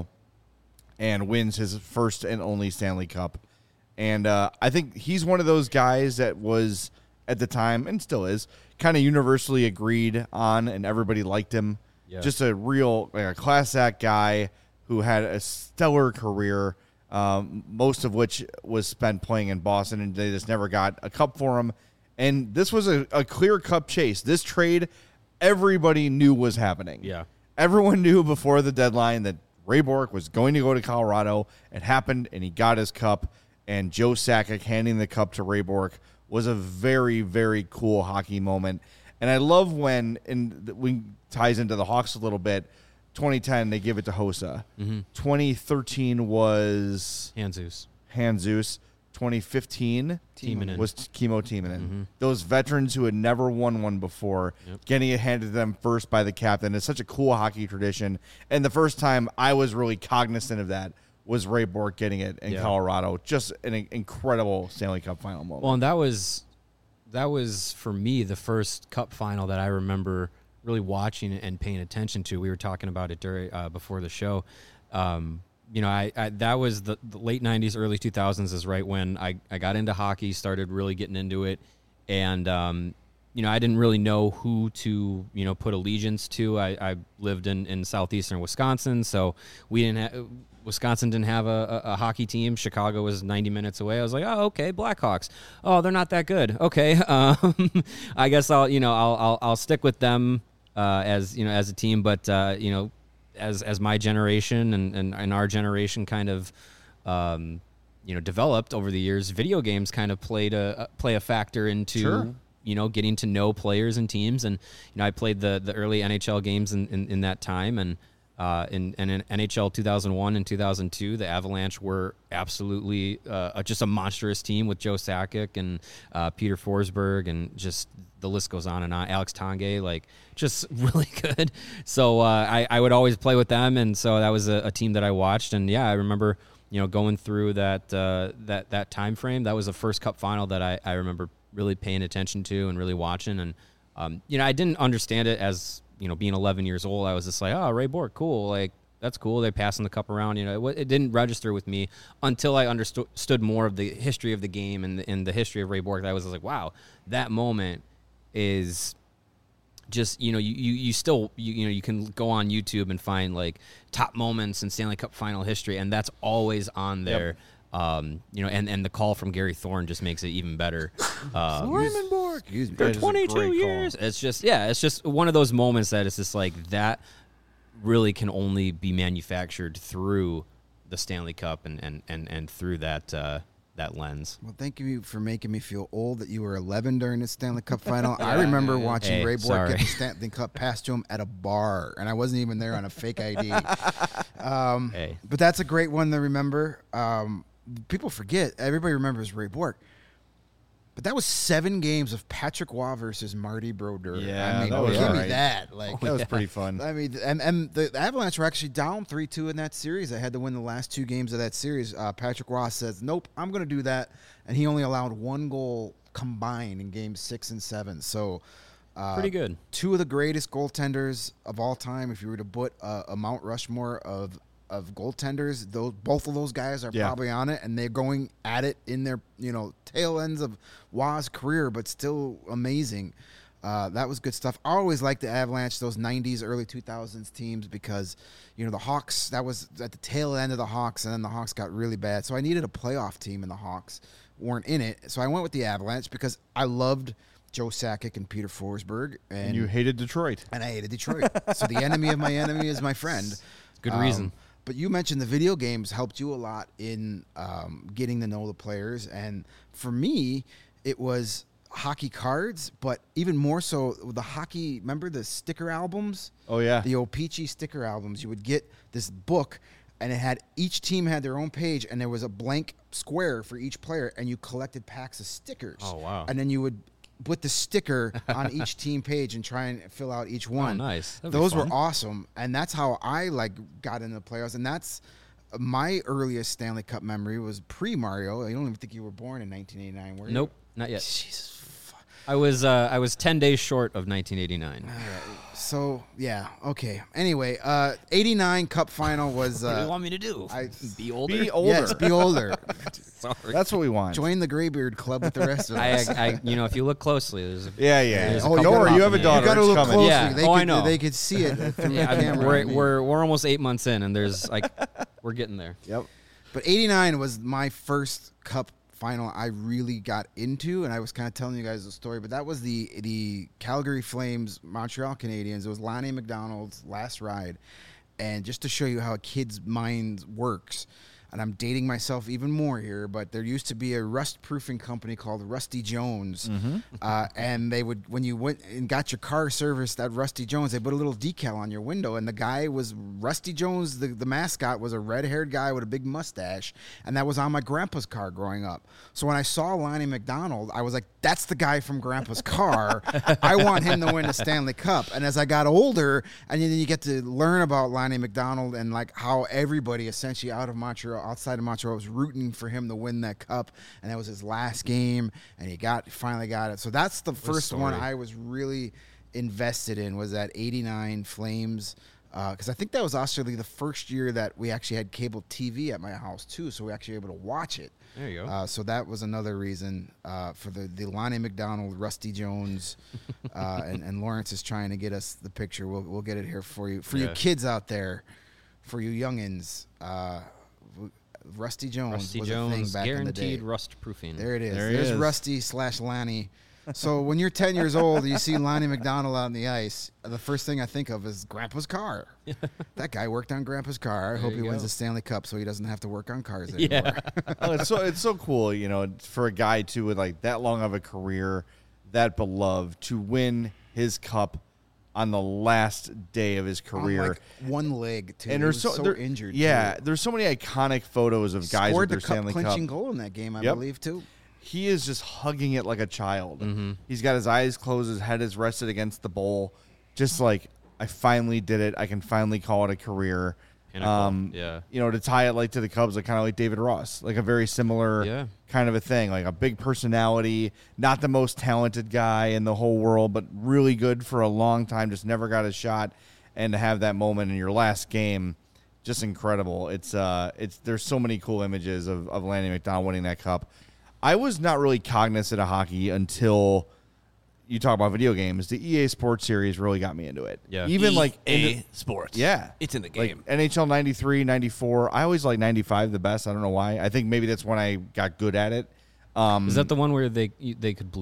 Speaker 1: and wins his first and only Stanley Cup. And uh, I think he's one of those guys that was, at the time, and still is, kind of universally agreed on, and everybody liked him.
Speaker 4: Yeah.
Speaker 1: Just a real, like a class act guy who had a stellar career, um, most of which was spent playing in Boston, and they just never got a cup for him. And this was a, a clear cup chase. This trade, everybody knew was happening.
Speaker 4: Yeah.
Speaker 1: Everyone knew before the deadline that Ray Bourque was going to go to Colorado. It happened, and he got his cup. And Joe Sakic handing the cup to Ray Bourque was a very, very cool hockey moment. And I love when, and we ties into the Hawks a little bit, twenty ten, they give it to Hossa.
Speaker 4: Mm-hmm.
Speaker 1: twenty thirteen was
Speaker 4: Hanzus.
Speaker 1: Hanzus. twenty fifteen
Speaker 4: Timonen.
Speaker 1: was Chemo Timonen.
Speaker 4: Mm-hmm.
Speaker 1: Those veterans who had never won one before,
Speaker 4: Yep.
Speaker 1: getting it handed to them first by the captain. It's such a cool hockey tradition. And the first time I was really cognizant of that was Ray Bourque getting it in
Speaker 4: Yeah.
Speaker 1: Colorado. Just an in- incredible Stanley Cup final moment.
Speaker 4: Well, and that was that was for me the first Cup final that I remember really watching and paying attention to. We were talking about it during uh, before the show. Um, you know, I, I that was the, the late nineties, early two thousands is right when I, I got into hockey, started really getting into it, and um, you know, I didn't really know who to you know put allegiance to. I, I lived in, in southeastern Wisconsin, so we didn't have. Wisconsin didn't have a, a, a hockey team. Chicago was ninety minutes away. I was like, oh, okay, Blackhawks. Oh, they're not that good. Okay, um, I guess I'll you know I'll I'll, I'll stick with them uh, as you know as a team. But uh, you know, as as my generation and, and, and our generation kind of um, you know developed over the years, video games kind of played a play a factor into.
Speaker 1: Sure.
Speaker 4: You know, getting to know players and teams, and you know, I played the the early N H L games in, in, in that time, and. Uh, in, and in N H L two thousand one and two thousand two, the Avalanche were absolutely uh, just a monstrous team with Joe Sakic and uh, Peter Forsberg, and just the list goes on and on. Alex Tanguay, like just really good. So uh, I, I would always play with them, and so that was a, a team that I watched. And yeah, I remember you know going through that uh, that that time frame. That was the first Cup final that I, I remember really paying attention to and really watching. And um, you know, I didn't understand it as you know, being eleven years old, I was just like, oh, Ray Bourque, cool. Like, that's cool. They're passing the cup around. You know, it, it didn't register with me until I understood more of the history of the game and the, and the history of Ray Bourque. I was like, wow, that moment is just, you know, you, you, you still, you, you know, you can go on YouTube and find, like, top moments in Stanley Cup final history, and that's always on there. Yep. Um, you know, and, and the call from Gary Thorne just makes it even better. Um,
Speaker 1: Raymond Bourque.
Speaker 3: Excuse me.
Speaker 4: for
Speaker 1: That is a
Speaker 4: twenty-two
Speaker 1: great
Speaker 4: years.
Speaker 1: call.
Speaker 4: It's just, yeah, it's just one of those moments that it's just like that really can only be manufactured through the Stanley Cup and and and, and through that uh, that lens.
Speaker 3: Well, thank you for making me feel old that you were eleven during the Stanley Cup final. I remember watching
Speaker 4: Hey,
Speaker 3: Ray Bork
Speaker 4: sorry.
Speaker 3: get the Stanley Cup passed to him at a bar, and I wasn't even there on a fake I D. Um,
Speaker 4: Hey.
Speaker 3: But that's a great one to remember. Um, people forget. Everybody remembers Ray Bork. But that was seven games of Patrick Waugh versus Marty Brodeur.
Speaker 1: Yeah,
Speaker 3: I mean,
Speaker 1: that was
Speaker 3: give
Speaker 1: all
Speaker 3: me
Speaker 1: right.
Speaker 3: that. Like,
Speaker 1: That was pretty fun.
Speaker 3: I mean, and, and the Avalanche were actually down three two in that series. They had to win the last two games of that series. Uh, Patrick Ross says, nope, I'm going to do that. And he only allowed one goal combined in games six and seven. So uh,
Speaker 4: Pretty good.
Speaker 3: Two of the greatest goaltenders of all time. If you were to put a, a Mount Rushmore of of goaltenders, those both of those guys are
Speaker 1: Yeah.
Speaker 3: probably on it, and they're going at it in their you know tail ends of Waugh's career, but still amazing. Uh, that was good stuff. I always liked the Avalanche, those nineties, early two thousands teams, because you know the Hawks. That was at the tail end of the Hawks, and then the Hawks got really bad. So I needed a playoff team, and the Hawks weren't in it. So I went with the Avalanche because I loved Joe Sakic and Peter Forsberg, and,
Speaker 1: And you hated Detroit.
Speaker 3: and I hated Detroit. So the enemy of my enemy is my friend.
Speaker 4: Good
Speaker 3: Um,
Speaker 4: reason.
Speaker 3: But you mentioned the video games helped you a lot in um, getting to know the players. And for me, it was hockey cards, but even more so the hockey. Remember the sticker albums?
Speaker 1: Oh, yeah.
Speaker 3: The O-Pee-Chee sticker albums. You would get this book, and it had each team had their own page, and there was a blank square for each player, and you collected packs of stickers.
Speaker 4: Oh, wow.
Speaker 3: And then you would put the sticker on each team page and try and fill out each one.
Speaker 4: Oh, nice. That'd be
Speaker 3: Those were
Speaker 4: fun.
Speaker 3: awesome, and that's how I like got into the playoffs. And that's my earliest Stanley Cup memory was pre Mario. I don't even think you were born in nineteen eighty-nine, were you?
Speaker 4: Nope, not yet.
Speaker 3: Jesus.
Speaker 4: I was uh, I was ten days short of nineteen eighty-nine.
Speaker 3: So yeah, okay. Anyway, uh, eighty-nine Cup final was.
Speaker 4: What do you
Speaker 3: Uh,
Speaker 4: want me to do?
Speaker 3: I-
Speaker 4: be older.
Speaker 1: Be older.
Speaker 3: yes, be older.
Speaker 4: Sorry.
Speaker 1: That's what we want.
Speaker 3: Join the Graybeard Club with the rest of
Speaker 4: I,
Speaker 3: us.
Speaker 4: I, you know, if you look closely, there's a,
Speaker 1: Yeah, yeah.
Speaker 4: There's a
Speaker 1: Oh,
Speaker 4: couple
Speaker 1: don't worry. You have a
Speaker 4: popping in.
Speaker 1: daughter.
Speaker 3: You got to
Speaker 1: It's
Speaker 3: look
Speaker 1: coming.
Speaker 3: closely.
Speaker 4: Yeah.
Speaker 3: They
Speaker 4: Oh,
Speaker 3: could,
Speaker 4: I know.
Speaker 3: They could see it through
Speaker 4: yeah,
Speaker 3: the
Speaker 4: I mean,
Speaker 3: camera.
Speaker 4: we're,
Speaker 3: I mean.
Speaker 4: we're we're almost eight months in, and there's like we're getting there.
Speaker 1: Yep.
Speaker 3: But eighty-nine was my first Cup final I really got into, and I was kind of telling you guys the story, but that was the the Calgary Flames, Montreal Canadiens. It was Lonnie McDonald's last ride. And just to show you how a kid's mind works, and I'm dating myself even more here, but there used to be a rust proofing company called Rusty Jones. Uh, and they would, when you went and got your car serviced at Rusty Jones, they put a little decal on your window. And the guy was Rusty Jones, the, the mascot was a red haired guy with a big mustache. And that was on my grandpa's car growing up. So when I saw Lonnie McDonald, I was like, that's the guy from grandpa's car. I want him to win the Stanley Cup. And as I got older, and then you get to learn about Lonnie McDonald and like how everybody essentially out of Montreal, outside of Montreal, was rooting for him to win that cup, and that was his last game, and he got finally got it. So that's the first one
Speaker 4: story.
Speaker 3: I was really invested in, was that eighty-nine Flames, because I think that was actually the first year that we actually had cable T V at my house too, so we actually were able to watch it.
Speaker 4: There you go.
Speaker 3: Uh, so that was another reason uh, for the, the Lonnie McDonald, Rusty Jones, uh, and, and Lawrence is trying to get us the picture. We'll we'll get it here for you, for you
Speaker 4: Yeah.
Speaker 3: kids out there, for you youngins. Uh, w- Rusty Jones
Speaker 4: Rusty
Speaker 3: was a thing
Speaker 4: Jones,
Speaker 3: back in the day.
Speaker 4: guaranteed rust proofing.
Speaker 3: There it is.
Speaker 1: There he
Speaker 3: There's
Speaker 1: is.
Speaker 3: Rusty slash Lonnie. So when you're ten years old, you see Lonnie McDonald out on the ice. The first thing I think of is Grandpa's car. That guy worked on Grandpa's car. I hope he
Speaker 4: you
Speaker 3: wins
Speaker 4: go.
Speaker 3: the Stanley Cup so he doesn't have to work on cars anymore.
Speaker 4: Yeah.
Speaker 1: Oh, it's so it's so cool, you know, for a guy too with like that long of a career, that beloved, to win his cup on the last day of his
Speaker 3: On,
Speaker 1: career.
Speaker 3: like, one leg too.
Speaker 1: And
Speaker 3: He
Speaker 1: there's
Speaker 3: was
Speaker 1: so,
Speaker 3: so
Speaker 1: there-
Speaker 3: injured.
Speaker 1: Yeah,
Speaker 3: too.
Speaker 1: there's so many iconic photos of guys
Speaker 3: Scored
Speaker 1: with
Speaker 3: the
Speaker 1: their
Speaker 3: cup
Speaker 1: Stanley
Speaker 3: clinching
Speaker 1: Cup.
Speaker 3: goal in that game, I
Speaker 1: Yep.
Speaker 3: believe too.
Speaker 1: He is just hugging it like a child. He's got his eyes closed, his head is rested against the bowl, just like, I finally did it. I can finally call it a career.
Speaker 4: Pinnacle,
Speaker 1: Um,
Speaker 4: yeah.
Speaker 1: You know, to tie it like to the Cubs, like kind of like David Ross, like a very similar
Speaker 4: Yeah.
Speaker 1: kind of a thing, like a big personality, not the most talented guy in the whole world, but really good for a long time, just never got a shot. And to have that moment in your last game, just incredible. It's uh, it's there's so many cool images of of Lanny McDonald winning that cup. I was not really cognizant of hockey until you talk about video games. The E A Sports series really got me into it.
Speaker 4: Yeah.
Speaker 1: Even like
Speaker 2: E A
Speaker 1: into-
Speaker 2: Sports.
Speaker 1: yeah,
Speaker 2: It's in the
Speaker 1: like
Speaker 2: game.
Speaker 1: N H L ninety-three, ninety-four. I always like ninety-five the best. I don't know why. I think maybe that's when I got good at it. Um,
Speaker 4: Is that the one where they they could bleed?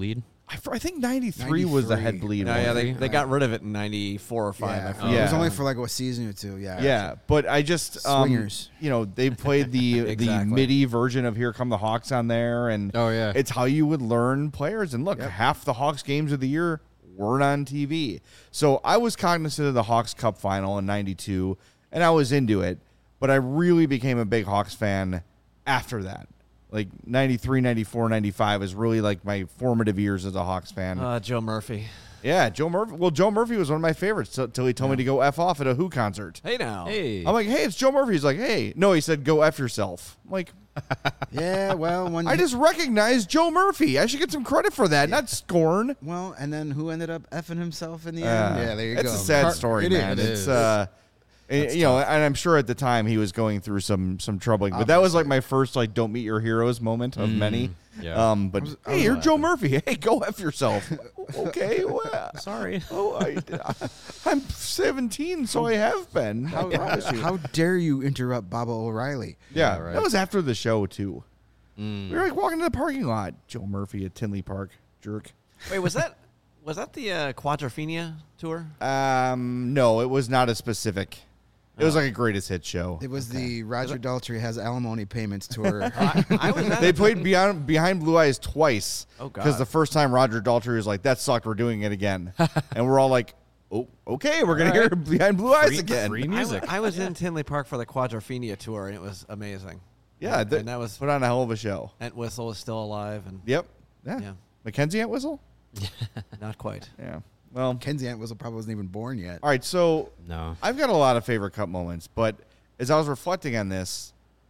Speaker 1: I, I think ninety-three was the head bleed
Speaker 2: No,
Speaker 1: one.
Speaker 2: yeah, they, they got rid of it in ninety-four or five.
Speaker 3: Yeah,
Speaker 2: I forget.
Speaker 1: Yeah.
Speaker 3: it was only for like a season or two. Yeah,
Speaker 1: Yeah, but I just um,
Speaker 3: Swingers.
Speaker 1: you know, they played the the
Speaker 2: Exactly.
Speaker 1: MIDI version of "Here Come the Hawks" on there, and
Speaker 4: Oh, yeah.
Speaker 1: it's how you would learn players. And look, half the Hawks games of the year weren't on T V, so I was cognizant of the Hawks Cup final in ninety-two, and I was into it. But I really became a big Hawks fan after that. Like ninety-three, ninety-four, ninety-five is really like my formative years as a Hawks fan.
Speaker 2: Uh, Joe Murphy.
Speaker 1: Yeah, Joe Murphy. Well, Joe Murphy was one of my favorites until he told me to go F off at a Who concert.
Speaker 2: Hey now.
Speaker 4: Hey.
Speaker 1: I'm like, hey, it's Joe Murphy. He's like, hey. No, he said, go F yourself. I'm like,
Speaker 3: yeah. Well, when
Speaker 1: I just recognized Joe Murphy. I should get some credit for that, not scorn.
Speaker 3: well, and then who ended up effing himself in the
Speaker 1: Uh,
Speaker 3: end? Yeah, there you
Speaker 1: it's
Speaker 3: go.
Speaker 1: It's a sad
Speaker 3: Car-
Speaker 1: story,
Speaker 3: it is.
Speaker 1: man.
Speaker 4: It
Speaker 1: It's,
Speaker 4: is.
Speaker 1: uh, and, you know, and I'm sure at the time he was going through some some troubling, but that was like my first like "Don't meet your heroes" moment of many.
Speaker 4: yeah.
Speaker 1: Um, but
Speaker 3: was- I
Speaker 1: hey,
Speaker 3: was
Speaker 1: you're
Speaker 3: laughing.
Speaker 1: Joe Murphy. Hey, go F yourself. Okay, well,
Speaker 4: Sorry.
Speaker 1: oh, I, I'm seventeen, so I have been. I
Speaker 3: How,
Speaker 1: promise you.
Speaker 3: how dare you interrupt Baba O'Reilly?
Speaker 1: Yeah,
Speaker 4: Yeah, right.
Speaker 1: that was after the show too. We were like walking to the parking lot. Joe Murphy at Tinley Park, jerk.
Speaker 2: Wait, was that was that the uh, Quadrophenia tour?
Speaker 1: Um, no, it was not a specific. It was like a greatest hit show.
Speaker 3: It was the Roger Daltrey has alimony payments tour.
Speaker 2: I, I was at
Speaker 1: They
Speaker 2: it.
Speaker 1: played Beyond Behind Blue Eyes twice.
Speaker 2: Oh, God.
Speaker 1: Because the first time Roger Daltrey was like, "That sucked. We're doing it again," and we're all like, "Oh, okay, we're gonna
Speaker 4: All
Speaker 1: hear
Speaker 4: right.
Speaker 1: Behind Blue Eyes
Speaker 4: Free-
Speaker 1: again."
Speaker 4: free
Speaker 2: I,
Speaker 4: music.
Speaker 2: w- I was in Tinley Park for the Quadrophenia tour, and it was amazing.
Speaker 1: Yeah,
Speaker 2: and,
Speaker 1: th-
Speaker 2: and that was
Speaker 1: put on a hell of a show.
Speaker 2: Entwistle was still alive, and
Speaker 1: Yep. Yeah.
Speaker 2: Yeah.
Speaker 1: Mackenzie Entwistle.
Speaker 2: not quite.
Speaker 1: Yeah. Well.
Speaker 3: Kenzie Entwistle probably wasn't even born yet.
Speaker 1: All right. So
Speaker 4: No.
Speaker 1: I've got a lot of favorite cup moments, but as I was reflecting on this,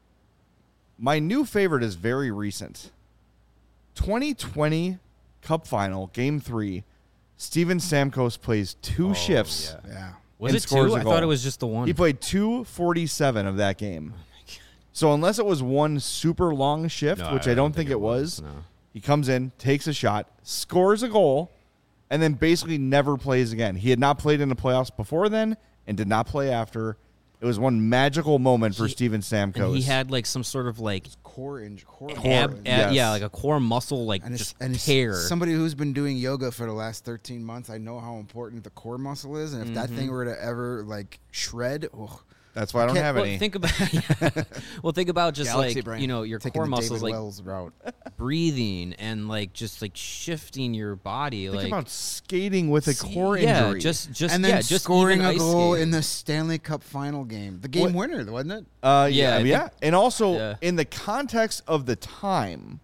Speaker 1: my new favorite is very recent. twenty twenty Cup Final, Game Three. Steven Stamkos plays two
Speaker 4: Oh,
Speaker 1: shifts.
Speaker 4: yeah.
Speaker 3: Yeah.
Speaker 4: Was
Speaker 1: And
Speaker 4: it
Speaker 1: scores
Speaker 4: two?
Speaker 1: a
Speaker 4: I
Speaker 1: goal.
Speaker 4: thought it was just the one.
Speaker 1: He played two forty-seven of that game. So unless it was one super long shift,
Speaker 4: No,
Speaker 1: which I, don't think, it was,
Speaker 4: No.
Speaker 1: he comes in, takes a shot, scores a goal, and then basically never plays again. He had not played in the playoffs before then and did not play after. It was one magical moment for
Speaker 4: He-
Speaker 1: Steven Stamkos.
Speaker 4: And he had like some sort of like
Speaker 3: Core inj- core,
Speaker 4: ab,
Speaker 3: core
Speaker 4: ab-
Speaker 1: yes.
Speaker 4: yeah, like a core muscle, like
Speaker 3: and it's,
Speaker 4: just
Speaker 3: and it's
Speaker 4: tear.
Speaker 3: somebody who's been doing yoga for the last thirteen months. I know how important the core muscle is, and if that thing were to ever like shred, oh,
Speaker 1: That's why I don't
Speaker 3: Can't-
Speaker 1: have
Speaker 4: well,
Speaker 1: any.
Speaker 4: think about well, think about just
Speaker 2: Galaxy
Speaker 4: like
Speaker 2: brain.
Speaker 4: you know your
Speaker 3: taking
Speaker 4: core
Speaker 3: the
Speaker 4: muscles,
Speaker 3: David
Speaker 4: like
Speaker 3: Wells route.
Speaker 4: breathing and like just like shifting your body,
Speaker 1: Think
Speaker 4: like
Speaker 1: about skating with a core
Speaker 4: yeah,
Speaker 1: injury.
Speaker 4: just just
Speaker 3: and then
Speaker 4: yeah, just
Speaker 3: scoring
Speaker 4: even
Speaker 3: a
Speaker 4: ice
Speaker 3: goal
Speaker 4: skating.
Speaker 3: in the Stanley Cup final game, the game
Speaker 1: What-
Speaker 3: winner, wasn't it?
Speaker 1: Uh,
Speaker 4: Yeah,
Speaker 1: yeah,
Speaker 4: I
Speaker 1: yeah,
Speaker 4: think-
Speaker 1: and also
Speaker 4: yeah.
Speaker 1: in the context of the time,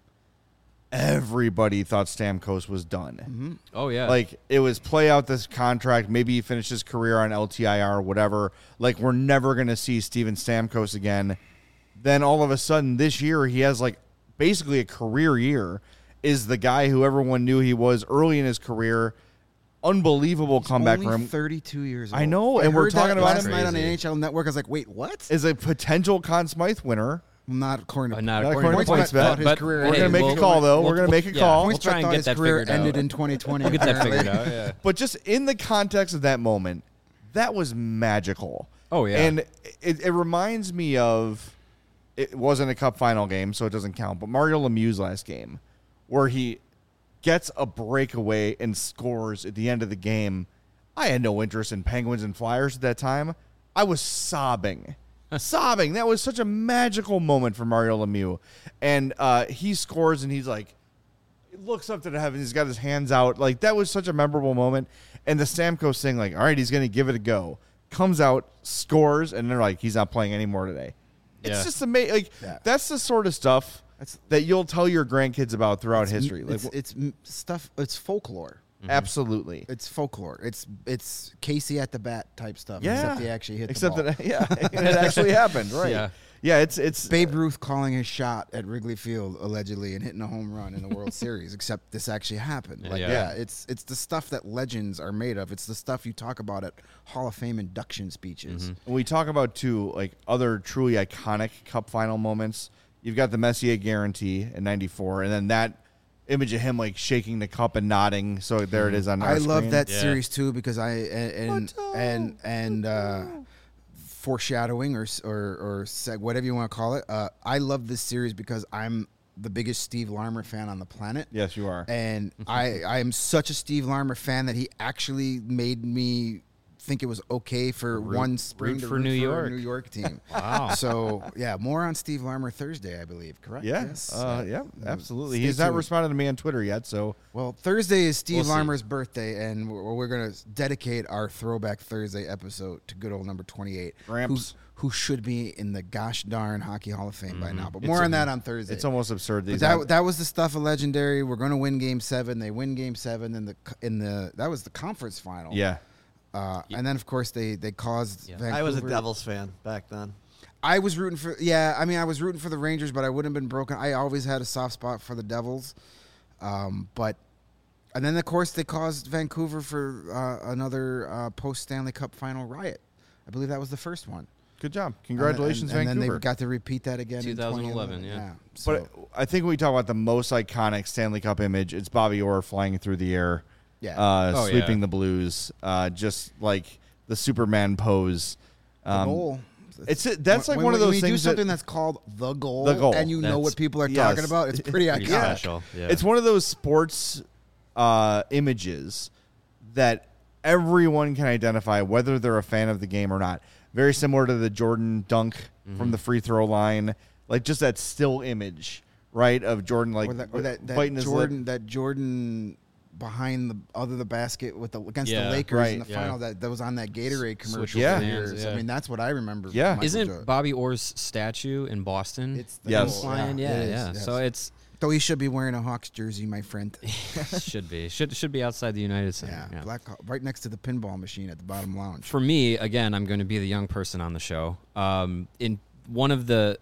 Speaker 1: everybody thought Stamkos was done.
Speaker 4: oh yeah,
Speaker 1: Like it was play out this contract. Maybe he finished his career on L T I R, whatever. Like we're never gonna see Steven Stamkos again. Then all of a sudden this year he has like basically a career year. Is the guy who everyone knew he was early in his career. Unbelievable comeback
Speaker 3: Only
Speaker 1: for him.
Speaker 3: thirty-two years old.
Speaker 1: I know,
Speaker 3: I
Speaker 1: and we're
Speaker 3: heard that
Speaker 1: talking about
Speaker 3: last
Speaker 1: him-
Speaker 3: night on the
Speaker 4: Crazy.
Speaker 3: N H L Network. I was like, wait, what?
Speaker 1: Is a potential Conn Smythe winner.
Speaker 3: Well, not according to
Speaker 4: Uh, not
Speaker 1: Not
Speaker 4: according
Speaker 1: according
Speaker 4: to
Speaker 1: to
Speaker 3: Points
Speaker 1: PointsBet,
Speaker 3: Bet thought his
Speaker 4: but
Speaker 3: career
Speaker 1: We're
Speaker 3: ended
Speaker 1: gonna
Speaker 3: in
Speaker 1: make
Speaker 4: we'll-
Speaker 1: a call though.
Speaker 4: we'll-
Speaker 1: We're gonna make a
Speaker 4: yeah,
Speaker 1: call.
Speaker 4: we'll
Speaker 3: Points
Speaker 4: try
Speaker 3: Bet
Speaker 4: and
Speaker 3: thought
Speaker 4: get
Speaker 3: his
Speaker 4: that
Speaker 3: career
Speaker 4: figured out.
Speaker 3: ended in twenty twenty.
Speaker 4: We'll get that
Speaker 3: apparently.
Speaker 4: figured out. Yeah.
Speaker 1: But just in the context of that moment, that was magical.
Speaker 4: Oh, yeah.
Speaker 1: And it, it reminds me of it wasn't a cup final game, so it doesn't count. But Mario Lemieux's last game, where he gets a breakaway and scores at the end of the game. I had no interest in Penguins and Flyers at that time. I was sobbing. sobbing. That was such a magical moment for Mario Lemieux. And uh, he scores, and he's like, he looks up to the heavens. He's got his hands out. Like, that was such a memorable moment. And the Stamkos thing, like, all right, he's going to give it a go. Comes out, scores, and they're like, he's not playing anymore today. It's
Speaker 4: Yeah.
Speaker 1: just amazing. Like,
Speaker 3: Yeah.
Speaker 1: that's the sort of stuff
Speaker 3: That's-
Speaker 1: that you'll tell your grandkids about throughout history. Like,
Speaker 3: It's, it's m- stuff. It's folklore.
Speaker 1: absolutely.
Speaker 3: It's folklore. It's it's Casey at the bat type stuff.
Speaker 1: Yeah.
Speaker 3: Except he actually hit
Speaker 1: Except
Speaker 3: the ball.
Speaker 1: that, yeah, it actually happened, right?
Speaker 4: Yeah.
Speaker 1: Yeah, it's it's
Speaker 3: Babe Ruth calling his shot at Wrigley Field allegedly and hitting a home run in the World Series. Except this actually happened. Like,
Speaker 4: Yeah.
Speaker 3: yeah. it's it's the stuff that legends are made of. It's the stuff you talk about at Hall of Fame induction speeches.
Speaker 1: When we talk about too, like other truly iconic Cup final moments, you've got the Messier guarantee in ninety-four, and then that image of him like shaking the cup and nodding. So there it is on. Our
Speaker 3: I love
Speaker 1: screen.
Speaker 3: that
Speaker 4: Yeah.
Speaker 3: series too because I and and and, and uh, foreshadowing or s- or or seg, whatever you want to call it. Uh, I love this series because I'm the biggest Steve Larmer fan on the planet.
Speaker 1: Yes, you are.
Speaker 3: And I, I am such a Steve Larmer fan that he actually made me think it was okay for
Speaker 4: Root-
Speaker 3: one spring
Speaker 4: root
Speaker 3: to
Speaker 4: for
Speaker 3: root
Speaker 4: New
Speaker 3: for
Speaker 4: York.
Speaker 3: a New York team.
Speaker 4: Wow.
Speaker 3: So, yeah, more on Steve Larmer Thursday, I believe, correct?
Speaker 1: Yeah,
Speaker 3: Yes.
Speaker 1: uh, yeah, absolutely.
Speaker 3: Stay
Speaker 1: He's not
Speaker 3: tuned.
Speaker 1: responded to me on Twitter yet, so
Speaker 3: Well, Thursday is Steve
Speaker 4: We'll see.
Speaker 3: Larmer's birthday, and we're, we're going to dedicate our Throwback Thursday episode to good old number twenty-eight,
Speaker 1: Gramps.
Speaker 3: who, who should be in the gosh darn Hockey Hall of Fame by now. But
Speaker 1: It's
Speaker 3: more
Speaker 1: a-
Speaker 3: on that on Thursday.
Speaker 1: it's almost absurd.
Speaker 3: But
Speaker 1: These
Speaker 3: that, that was the stuff of legendary. We're going to win Game Seven. They win Game Seven in the in the that was the conference final.
Speaker 1: yeah.
Speaker 3: Uh, and then of course they they caused
Speaker 4: Yeah.
Speaker 3: Vancouver.
Speaker 2: I was a Devils fan back then.
Speaker 3: I was rooting for yeah. I mean, I was rooting for the Rangers, but I wouldn't have been broken. I always had a soft spot for the Devils, um, but and then of course they caused Vancouver for uh, another uh, post Stanley Cup final riot. I believe that was the first one.
Speaker 1: Good job. Congratulations,
Speaker 3: and, and, and
Speaker 1: Vancouver.
Speaker 3: then they got to repeat that again in
Speaker 4: twenty
Speaker 3: twenty
Speaker 4: eleven,
Speaker 3: eleven.
Speaker 4: yeah.
Speaker 3: So,
Speaker 1: But I think when we talk about the most iconic Stanley Cup image, it's Bobby Orr flying through the air,
Speaker 3: yeah.
Speaker 1: uh,
Speaker 4: Oh,
Speaker 1: sweeping
Speaker 4: yeah.
Speaker 1: the Blues, uh, just like the Superman pose.
Speaker 3: the
Speaker 1: Um,
Speaker 3: goal.
Speaker 1: It's that's like
Speaker 3: when,
Speaker 1: one of
Speaker 3: when
Speaker 1: those
Speaker 3: you
Speaker 1: things
Speaker 3: do something
Speaker 1: that,
Speaker 3: that's called the goal,
Speaker 1: The goal.
Speaker 3: and you know
Speaker 4: That's-
Speaker 3: what people are
Speaker 1: yes.
Speaker 3: talking about. It's pretty
Speaker 4: Pretty
Speaker 3: iconic.
Speaker 4: special. Yeah.
Speaker 1: it's one of those sports uh, images that everyone can identify, whether they're a fan of the game or not. Very similar to the Jordan dunk
Speaker 3: Mm-hmm.
Speaker 1: from the free throw line, like just that still image, right, of Jordan like
Speaker 3: or that, or that, that
Speaker 1: biting his lip.
Speaker 3: Jordan, that Jordan behind the other the basket with the against
Speaker 4: Yeah,
Speaker 3: the Lakers
Speaker 1: right,
Speaker 3: in the
Speaker 4: yeah.
Speaker 3: final that, that was on that Gatorade commercial.
Speaker 4: Switch
Speaker 1: Yeah.
Speaker 3: for
Speaker 4: hands,
Speaker 3: years.
Speaker 4: yeah.
Speaker 3: I mean that's what I remember.
Speaker 1: Yeah.
Speaker 3: Michael
Speaker 4: Isn't
Speaker 3: Jordan.
Speaker 4: Bobby Orr's statue in Boston?
Speaker 3: It's the
Speaker 1: Yes.
Speaker 3: goal.
Speaker 4: flying? Yeah,
Speaker 3: it is,
Speaker 4: yeah.
Speaker 3: yes.
Speaker 4: So it's
Speaker 3: though he should be wearing a Hawks jersey, my friend.
Speaker 4: should be should should be outside the United Center.
Speaker 3: yeah,
Speaker 4: Yeah.
Speaker 3: black right next to the pinball machine at the bottom lounge.
Speaker 4: For me, again, I'm going to be the young person on the show. Um, in one of the,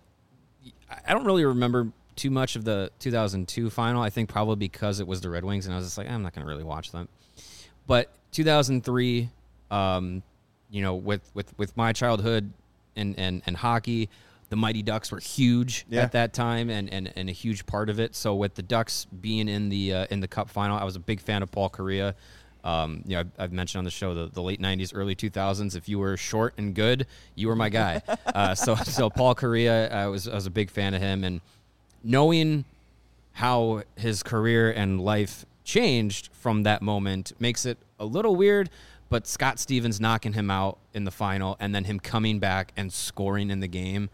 Speaker 4: I don't really remember too much of the two thousand two final. I think probably because it was the Red Wings, and I was just like, I'm not going to really watch them. But two thousand three, um, you know, with, with, with my childhood and, and, and hockey, the Mighty Ducks were huge
Speaker 1: Yeah.
Speaker 4: at that time and, and, and a huge part of it. So with the Ducks being in the uh, in the Cup final, I was a big fan of Paul Kariya. Um, you know, I've, I've mentioned on the show the, the late nineties, early two thousands. If you were short and good, you were my guy. uh, so so Paul Kariya, I was I was a big fan of him, and knowing how his career and life changed from that moment makes it a little weird. But Scott Stevens knocking him out in the final and then him coming back and scoring in the game,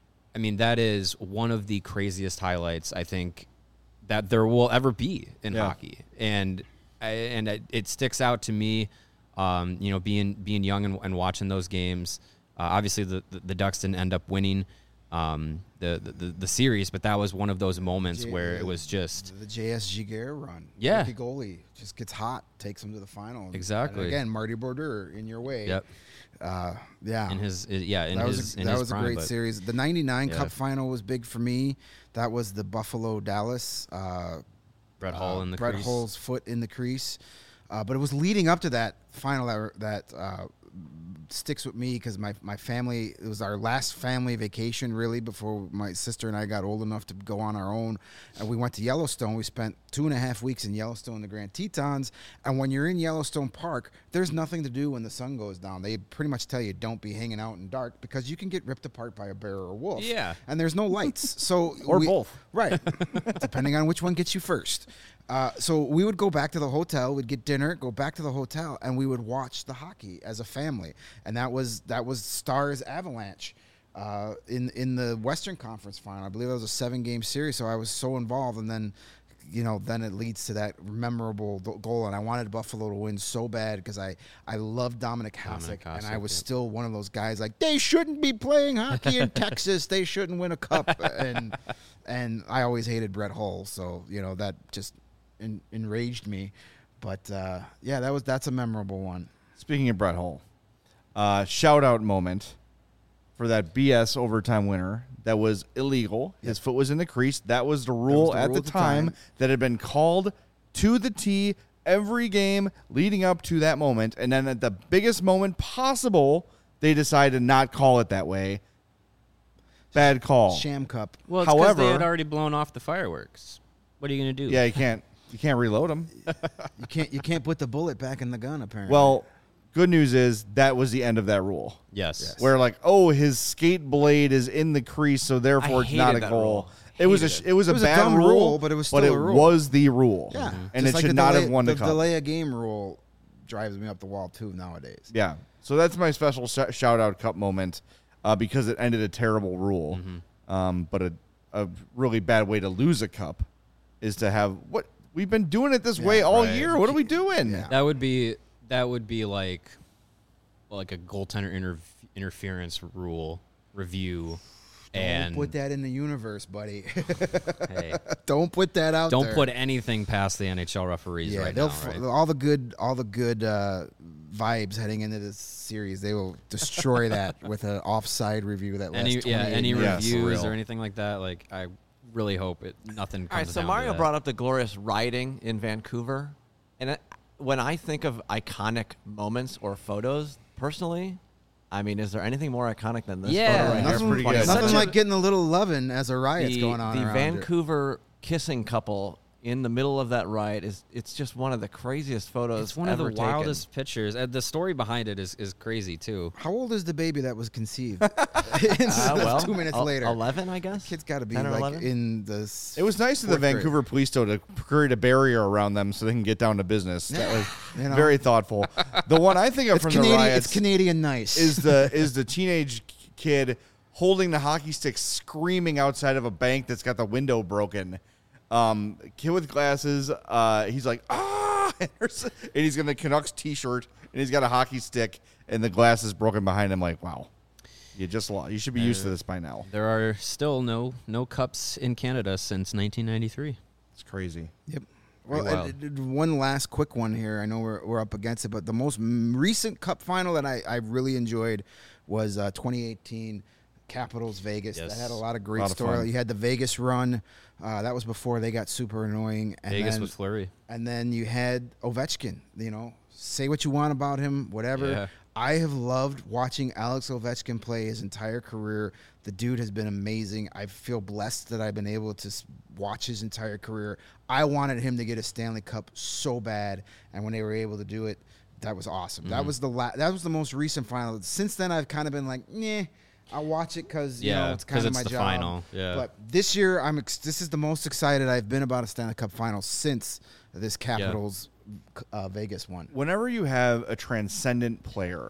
Speaker 4: I mean, that is one of the craziest highlights I think that there will ever be in
Speaker 1: Yeah.
Speaker 4: hockey, and I, and it, it sticks out to me. Um, you know, being being young and, and watching those games. Uh, obviously, the, the the Ducks didn't end up winning um, the, the the series, but that was one of those moments
Speaker 3: J-
Speaker 4: where it was just
Speaker 3: the J S G Gare run.
Speaker 4: Yeah.
Speaker 3: Rookie goalie just gets hot, takes him to the final. And-
Speaker 4: Exactly.
Speaker 3: And again, Marty Brodeur in your way.
Speaker 4: yep
Speaker 3: Uh, yeah.
Speaker 4: in his yeah in
Speaker 3: that
Speaker 4: his
Speaker 3: was a,
Speaker 4: in
Speaker 3: that
Speaker 4: his
Speaker 3: was
Speaker 4: prime,
Speaker 3: a great
Speaker 4: but
Speaker 3: series. The ninety-nine
Speaker 4: Yeah.
Speaker 3: Cup final was big for me. That was the Buffalo Dallas. Uh,
Speaker 4: Brett Hull
Speaker 3: uh,
Speaker 4: in the
Speaker 3: Brett
Speaker 4: crease.
Speaker 3: Hull's foot in the crease. Uh, but it was leading up to that final that that uh, sticks with me because my my family, it was our last family vacation really before my sister and I got old enough to go on our own, and we went to Yellowstone. We spent two and a half weeks in Yellowstone, the Grand Tetons, and when you're in Yellowstone Park, there's nothing to do when the sun goes down. They pretty much tell you don't be hanging out in dark because you can get ripped apart by a bear or a wolf.
Speaker 4: Yeah.
Speaker 3: And there's no lights. So
Speaker 1: Or
Speaker 3: we-
Speaker 1: both.
Speaker 3: Right. Depending on which one gets you first. Uh, so we would go back to the hotel, we'd get dinner, go back to the hotel, and we would watch the hockey as a family. And that was that was Stars Avalanche uh, in in the Western Conference final. I believe it was a seven game series. So I was so involved, and then. You know, then it leads to that memorable do- goal, and I wanted Buffalo to win so bad because I, I love Dominic Hasek,
Speaker 4: Dominic
Speaker 3: and I
Speaker 4: Hasek,
Speaker 3: was
Speaker 4: yep.
Speaker 3: still one of those guys like they shouldn't be playing hockey in Texas. They shouldn't win a cup, and and I always hated Brett Hull, so you know that just en- enraged me. But uh, yeah, that was that's a memorable one.
Speaker 1: Speaking of Brett Hull, uh, shout out moment for that B S overtime winner that was illegal. His foot was in the crease. That was the rule
Speaker 3: was the
Speaker 1: at
Speaker 3: rule
Speaker 1: the
Speaker 3: at the
Speaker 1: time,
Speaker 3: time.
Speaker 1: that had been called to the T every game leading up to that moment. And then at the biggest moment possible, they decided to not call it that way. Bad call.
Speaker 3: Sham Cup.
Speaker 4: Well, it's because they
Speaker 1: However-
Speaker 4: had already blown off the fireworks. What are you going to do?
Speaker 1: Yeah, you can't you can't reload them.
Speaker 3: You can't you can't put the bullet back in the gun apparently.
Speaker 1: Well, good news is that was the end of that rule.
Speaker 4: Yes.
Speaker 1: Where like, oh, his skate blade is in the crease, so therefore
Speaker 2: I
Speaker 1: it's not a
Speaker 2: hated that
Speaker 1: goal.
Speaker 2: rule.
Speaker 1: It was a
Speaker 2: Hated
Speaker 1: sh- it was a
Speaker 3: It was a
Speaker 1: bad
Speaker 3: dumb
Speaker 1: rule,
Speaker 3: rule, but it was
Speaker 1: but
Speaker 3: still
Speaker 1: it
Speaker 3: a rule.
Speaker 1: was the rule.
Speaker 3: Yeah,
Speaker 1: and
Speaker 3: Just
Speaker 1: it
Speaker 3: like
Speaker 1: should
Speaker 3: the
Speaker 1: not
Speaker 3: delay,
Speaker 1: have won the,
Speaker 3: the
Speaker 1: cup.
Speaker 3: delay a game rule drives me up the wall too nowadays.
Speaker 1: Yeah, so that's my special sh- shout out cup moment uh, because it ended a terrible rule.
Speaker 3: Mm-hmm.
Speaker 1: Um, but a a really bad way to lose a cup is to have what we've been doing it this way all
Speaker 4: right.
Speaker 1: year. What are we doing?
Speaker 3: Yeah.
Speaker 4: That would be that would be like like a goaltender inter- interference rule review, and
Speaker 3: Don't put that in the universe, buddy.
Speaker 4: hey,
Speaker 3: Don't put that out
Speaker 4: don't
Speaker 3: there.
Speaker 4: put anything past the N H L referees
Speaker 3: yeah,
Speaker 4: right
Speaker 3: they'll
Speaker 4: now.
Speaker 3: f-
Speaker 4: Right?
Speaker 3: all the good, all the good uh, vibes heading into this series. They will destroy that with an offside review that lasts
Speaker 4: Any yeah,
Speaker 3: twenty-eight
Speaker 4: any
Speaker 3: minutes.
Speaker 1: Yeah,
Speaker 4: reviews
Speaker 1: surreal.
Speaker 4: or anything like that. Like I really hope it nothing comes
Speaker 2: All right, so
Speaker 4: down
Speaker 2: Mario
Speaker 4: to that.
Speaker 2: brought up the glorious riding in Vancouver, and it, when I think of iconic moments or photos, personally, I mean, is there anything more iconic than this
Speaker 4: Yeah.
Speaker 2: photo right here?
Speaker 1: That's
Speaker 2: from
Speaker 1: pretty good.
Speaker 2: twenty
Speaker 3: Nothing
Speaker 2: seven?
Speaker 4: Such a-
Speaker 3: like getting a little loving as a riot's
Speaker 2: the,
Speaker 3: going on
Speaker 2: the
Speaker 3: around
Speaker 2: Vancouver kissing couple in the middle of that ride is it's just one of the craziest photos.
Speaker 4: It's one of the
Speaker 2: ever taken.
Speaker 4: wildest pictures. And the story behind it is, is crazy too.
Speaker 3: it. How old is the baby that was conceived?
Speaker 2: Uh, well,
Speaker 3: two minutes
Speaker 2: el-
Speaker 3: later.
Speaker 2: eleven, I guess.
Speaker 3: Kid's got to be
Speaker 2: ten or
Speaker 3: like
Speaker 2: eleven?
Speaker 3: in the. s-
Speaker 1: It was nice of the
Speaker 3: fourth grade.
Speaker 1: Vancouver police though to create a barrier around them so they can get down to business. That was
Speaker 3: You know?
Speaker 1: very thoughtful. The one I think of
Speaker 3: It's
Speaker 1: from
Speaker 3: Canadian.
Speaker 1: the riots
Speaker 3: It's Canadian nice.
Speaker 1: is the is the teenage kid holding the hockey stick, screaming outside of a bank that's got the window broken. Um, kid with glasses. Uh, he's like ah, and he's got a Canucks T-shirt and he's got a hockey stick and the glass is broken behind him. Like wow, you just lost. You should be used to this by now.
Speaker 4: There are still no no cups in Canada since nineteen ninety-three.
Speaker 1: It's crazy.
Speaker 3: Yep. Well,
Speaker 4: Pretty
Speaker 3: uh,
Speaker 4: wild.
Speaker 3: d- d- one last quick one here. I know we're, we're up against it, but the most m- recent Cup final that I, I really enjoyed was uh, twenty eighteen Capitals Vegas.
Speaker 4: Yes.
Speaker 3: That had a lot of great
Speaker 1: Lot of
Speaker 3: story.
Speaker 1: fun.
Speaker 3: You had the Vegas run. Uh, that was before they got super annoying. And
Speaker 4: Vegas
Speaker 3: then,
Speaker 4: with Fleury.
Speaker 3: And then you had Ovechkin. You know, say what you want about him, whatever.
Speaker 4: Yeah.
Speaker 3: I have loved watching Alex Ovechkin play his entire career. The dude has been amazing. I feel blessed that I've been able to s- watch his entire career. I wanted him to get a Stanley Cup so bad, and when they were able to do it, that was awesome.
Speaker 4: Mm-hmm.
Speaker 3: That was the la- that was the most recent final. Since then, I've kind of been like, nah, I'll watch it because you
Speaker 4: Yeah,
Speaker 3: know it's kind
Speaker 4: 'cause
Speaker 3: of
Speaker 4: it's
Speaker 3: my
Speaker 4: the
Speaker 3: job.
Speaker 4: final, yeah.
Speaker 3: But this year, I'm ex- this is the most excited I've been about a Stanley Cup final since this Capitals uh, Vegas one.
Speaker 1: Whenever you have a transcendent player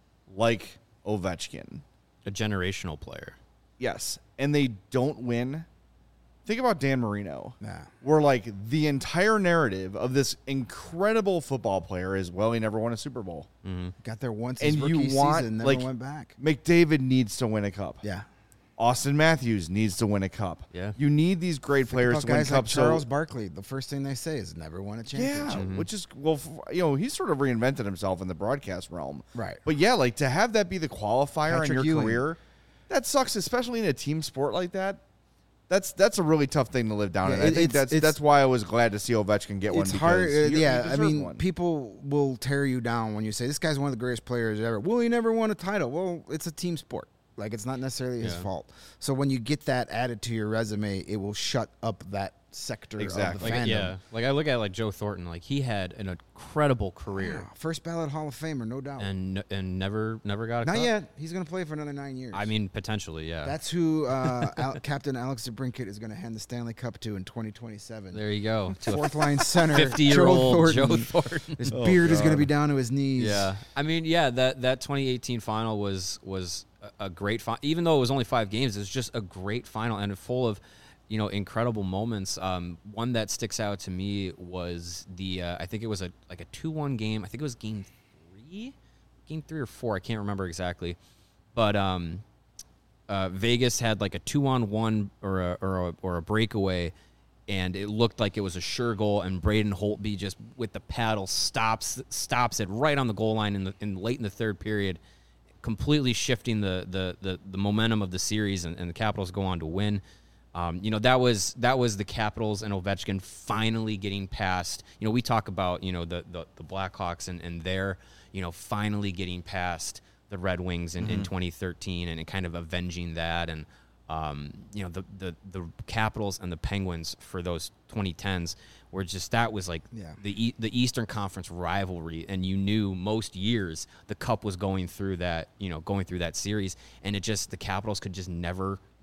Speaker 1: like Ovechkin,
Speaker 4: A generational player.
Speaker 1: yes, and they don't win, think about Dan Marino.
Speaker 3: Yeah.
Speaker 1: Where like the entire narrative of this incredible football player is, well, he never won a Super Bowl.
Speaker 3: Got there once his
Speaker 1: And
Speaker 3: rookie
Speaker 1: you want,
Speaker 3: season, never
Speaker 1: like,
Speaker 3: went back.
Speaker 1: McDavid needs to win a cup.
Speaker 3: Yeah.
Speaker 1: Austin Matthews needs to win a cup.
Speaker 4: Yeah.
Speaker 1: You need these great
Speaker 3: Think
Speaker 1: players
Speaker 3: about
Speaker 1: to win
Speaker 3: guys like
Speaker 1: cups.
Speaker 3: Charles
Speaker 1: so,
Speaker 3: Barkley. The first thing they say is never won a
Speaker 1: yeah,
Speaker 3: championship.
Speaker 1: which is well, f- you know, he's sort of reinvented himself in the broadcast realm.
Speaker 3: Right.
Speaker 1: But yeah, like to have that be the qualifier in
Speaker 3: Patrick
Speaker 1: your
Speaker 3: Ewing.
Speaker 1: career, that sucks, especially in a team sport like that. That's that's a really tough thing to live down.
Speaker 3: Yeah,
Speaker 1: and I
Speaker 3: it-
Speaker 1: think
Speaker 3: it's-
Speaker 1: that's
Speaker 3: it's-
Speaker 1: that's why I was glad to see Ovechkin get one.
Speaker 3: It's
Speaker 1: because
Speaker 3: hard. uh,
Speaker 1: he- he
Speaker 3: yeah, I
Speaker 1: deserved
Speaker 3: mean,
Speaker 1: one.
Speaker 3: people will tear you down when you say this guy's one of the greatest players ever. Well, he never won a title. Well, it's a team sport. Like, it's not necessarily his
Speaker 4: Yeah.
Speaker 3: fault. So when you get that added to your resume, it will shut up that sector
Speaker 1: Exactly.
Speaker 3: of the
Speaker 4: Like
Speaker 3: fandom.
Speaker 4: yeah, like I look at like Joe Thornton. Like he had an incredible career
Speaker 3: Yeah, first ballot Hall of Famer, no doubt.
Speaker 4: and and never never got a
Speaker 3: Not
Speaker 4: cup.
Speaker 3: yet. He's going to play for another nine years.
Speaker 4: I mean, potentially, yeah.
Speaker 3: That's who uh, Al- Captain Alex DeBrincat is going to hand the Stanley Cup to in twenty twenty-seven.
Speaker 4: there you go. To a
Speaker 3: Fourth line center,
Speaker 4: fifty-year-old
Speaker 3: Joe
Speaker 4: Joe
Speaker 3: Thornton.
Speaker 4: Thornton.
Speaker 3: His
Speaker 1: Oh,
Speaker 3: beard is going to
Speaker 1: God.
Speaker 3: be down to his knees.
Speaker 4: Yeah, I mean, yeah, that that twenty eighteen final was was a, a great final. Even though it was only five games, it was just a great final and full of, you know, incredible moments. Um, one that sticks out to me was the uh, I think it was a like a two one game. I think it was game three, game three or four. I can't remember exactly, but um, uh, Vegas had like a two on one or a, or a or a breakaway. And it looked like it was a sure goal, and Braden Holtby just with the paddle stops stops it right on the goal line in the in late in the third period, completely shifting the the the, the momentum of the series, and, and the Capitals go on to win. Um, you know, that was that was the Capitals and Ovechkin finally getting past. You know, we talk about you know the the, the Blackhawks and and their you know finally getting past the Red Wings in, in twenty thirteen and kind of avenging that and. Um, you know, the, the, the Capitals and the Penguins for those twenty tens were just, that was like
Speaker 3: Yeah.
Speaker 4: the e- the Eastern Conference rivalry. And you knew most years the Cup was going through that, you know, going through that series. And it just, the Capitals could just never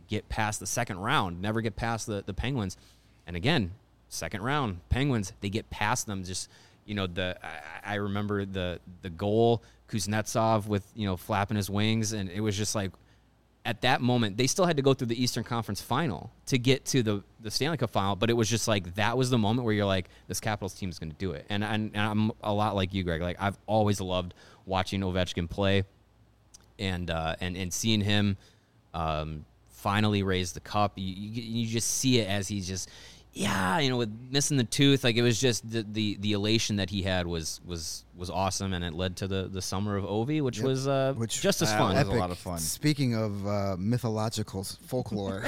Speaker 4: get past the second round, never get past the, the Penguins. And again, second round, Penguins, they get past them. Just, you know, the I, I remember the the goal, Kuznetsov with, you know, flapping his wings, and it was just like, at that moment, they still had to go through the Eastern Conference final to get to the, the Stanley Cup final, but it was just like, that was the moment where you're like, this Capitals team is going to do it. And, and, and I'm a lot like you, Greg. Like, I've always loved watching Ovechkin play and uh, and, and seeing him um, finally raise the cup. You, you, you just see it as he's just, yeah, you know, with missing the tooth, like it was just the, the, the elation that he had was was was awesome, and it led to the, the summer of Ovi, which
Speaker 3: Yep.
Speaker 4: was uh,
Speaker 3: Which-
Speaker 4: just as
Speaker 1: That
Speaker 4: fun.
Speaker 1: was a lot of fun.
Speaker 3: Speaking of uh, mythological s- folklore,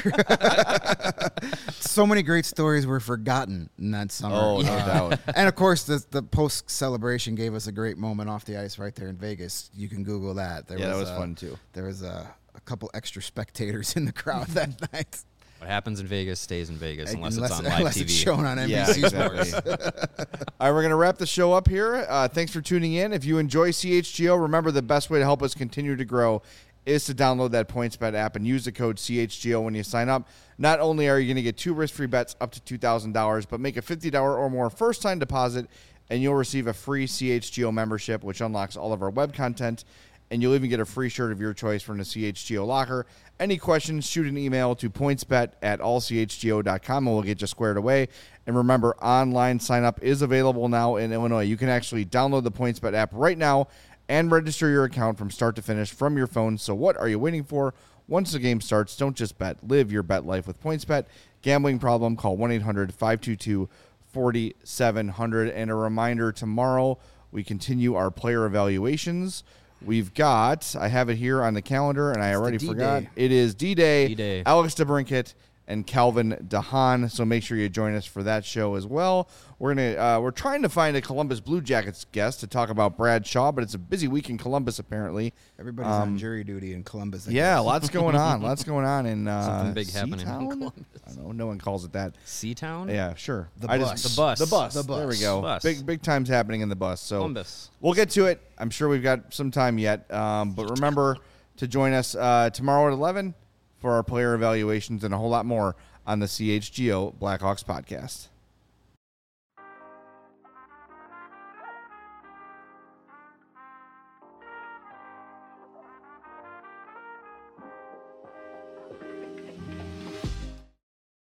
Speaker 3: so many great stories were forgotten in that summer.
Speaker 1: Oh, no
Speaker 3: Uh,
Speaker 1: doubt.
Speaker 3: And of course, the, the post celebration gave us a great moment off the ice right there in Vegas. You can Google that. There
Speaker 1: Yeah, that
Speaker 3: was,
Speaker 1: was
Speaker 3: uh,
Speaker 1: fun, too.
Speaker 3: There was uh, a couple extra spectators in the crowd that night.
Speaker 4: What happens in Vegas stays in Vegas, unless,
Speaker 3: unless,
Speaker 4: it's on live
Speaker 3: unless
Speaker 4: T V.
Speaker 3: it's shown on N B C
Speaker 1: Yeah, exactly.
Speaker 3: Sports.
Speaker 1: All right, we're going to wrap the show up here. Uh, thanks for tuning in. If you enjoy C H G O, remember the best way to help us continue to grow is to download that PointsBet app and use the code C H G O when you sign up. Not only are you going to get two risk-free bets up to two thousand dollars, but make a fifty dollars or more first-time deposit, and you'll receive a free C H G O membership, which unlocks all of our web content, and you'll even get a free shirt of your choice from the C H G O locker. Any questions, shoot an email to pointsbet at all c h g o dot com, and we'll get you squared away. And remember, online sign-up is available now in Illinois. You can actually download the PointsBet app right now and register your account from start to finish from your phone. So what are you waiting for? Once the game starts, don't just bet. Live your bet life with PointsBet. Gambling problem, call one eight hundred five two two four seven zero zero. And a reminder, tomorrow we continue our player evaluations. We've got, I have it here on the calendar, and I
Speaker 3: the
Speaker 1: already
Speaker 3: D-Day.
Speaker 1: forgot. It is D-Day,
Speaker 4: D-Day.
Speaker 1: Alex DeBrincat, and Calvin DeHaan. So make sure you join us for that show as well. We're gonna uh, we're trying to find a Columbus Blue Jackets guest to talk about Brad Shaw, but it's a busy week in Columbus apparently.
Speaker 3: Everybody's on jury duty in Columbus. I
Speaker 1: Yeah,
Speaker 3: guess.
Speaker 1: lots going on. Lots going on in uh,
Speaker 4: Something big happening in
Speaker 1: Seatown?
Speaker 4: Columbus.
Speaker 1: I don't know. No one calls it that.
Speaker 4: Seatown?
Speaker 1: Yeah, sure.
Speaker 3: The
Speaker 1: I
Speaker 3: bus.
Speaker 1: Just,
Speaker 4: The bus.
Speaker 1: The bus.
Speaker 3: The
Speaker 1: There we
Speaker 3: bus.
Speaker 1: go.
Speaker 4: Bus.
Speaker 1: Big big times happening in the bus. So
Speaker 4: Columbus.
Speaker 1: we'll get to it. I'm sure we've got some time yet. Um, but remember to join us uh, tomorrow at eleven for our player evaluations and a whole lot more on the C H G O Blackhawks podcast.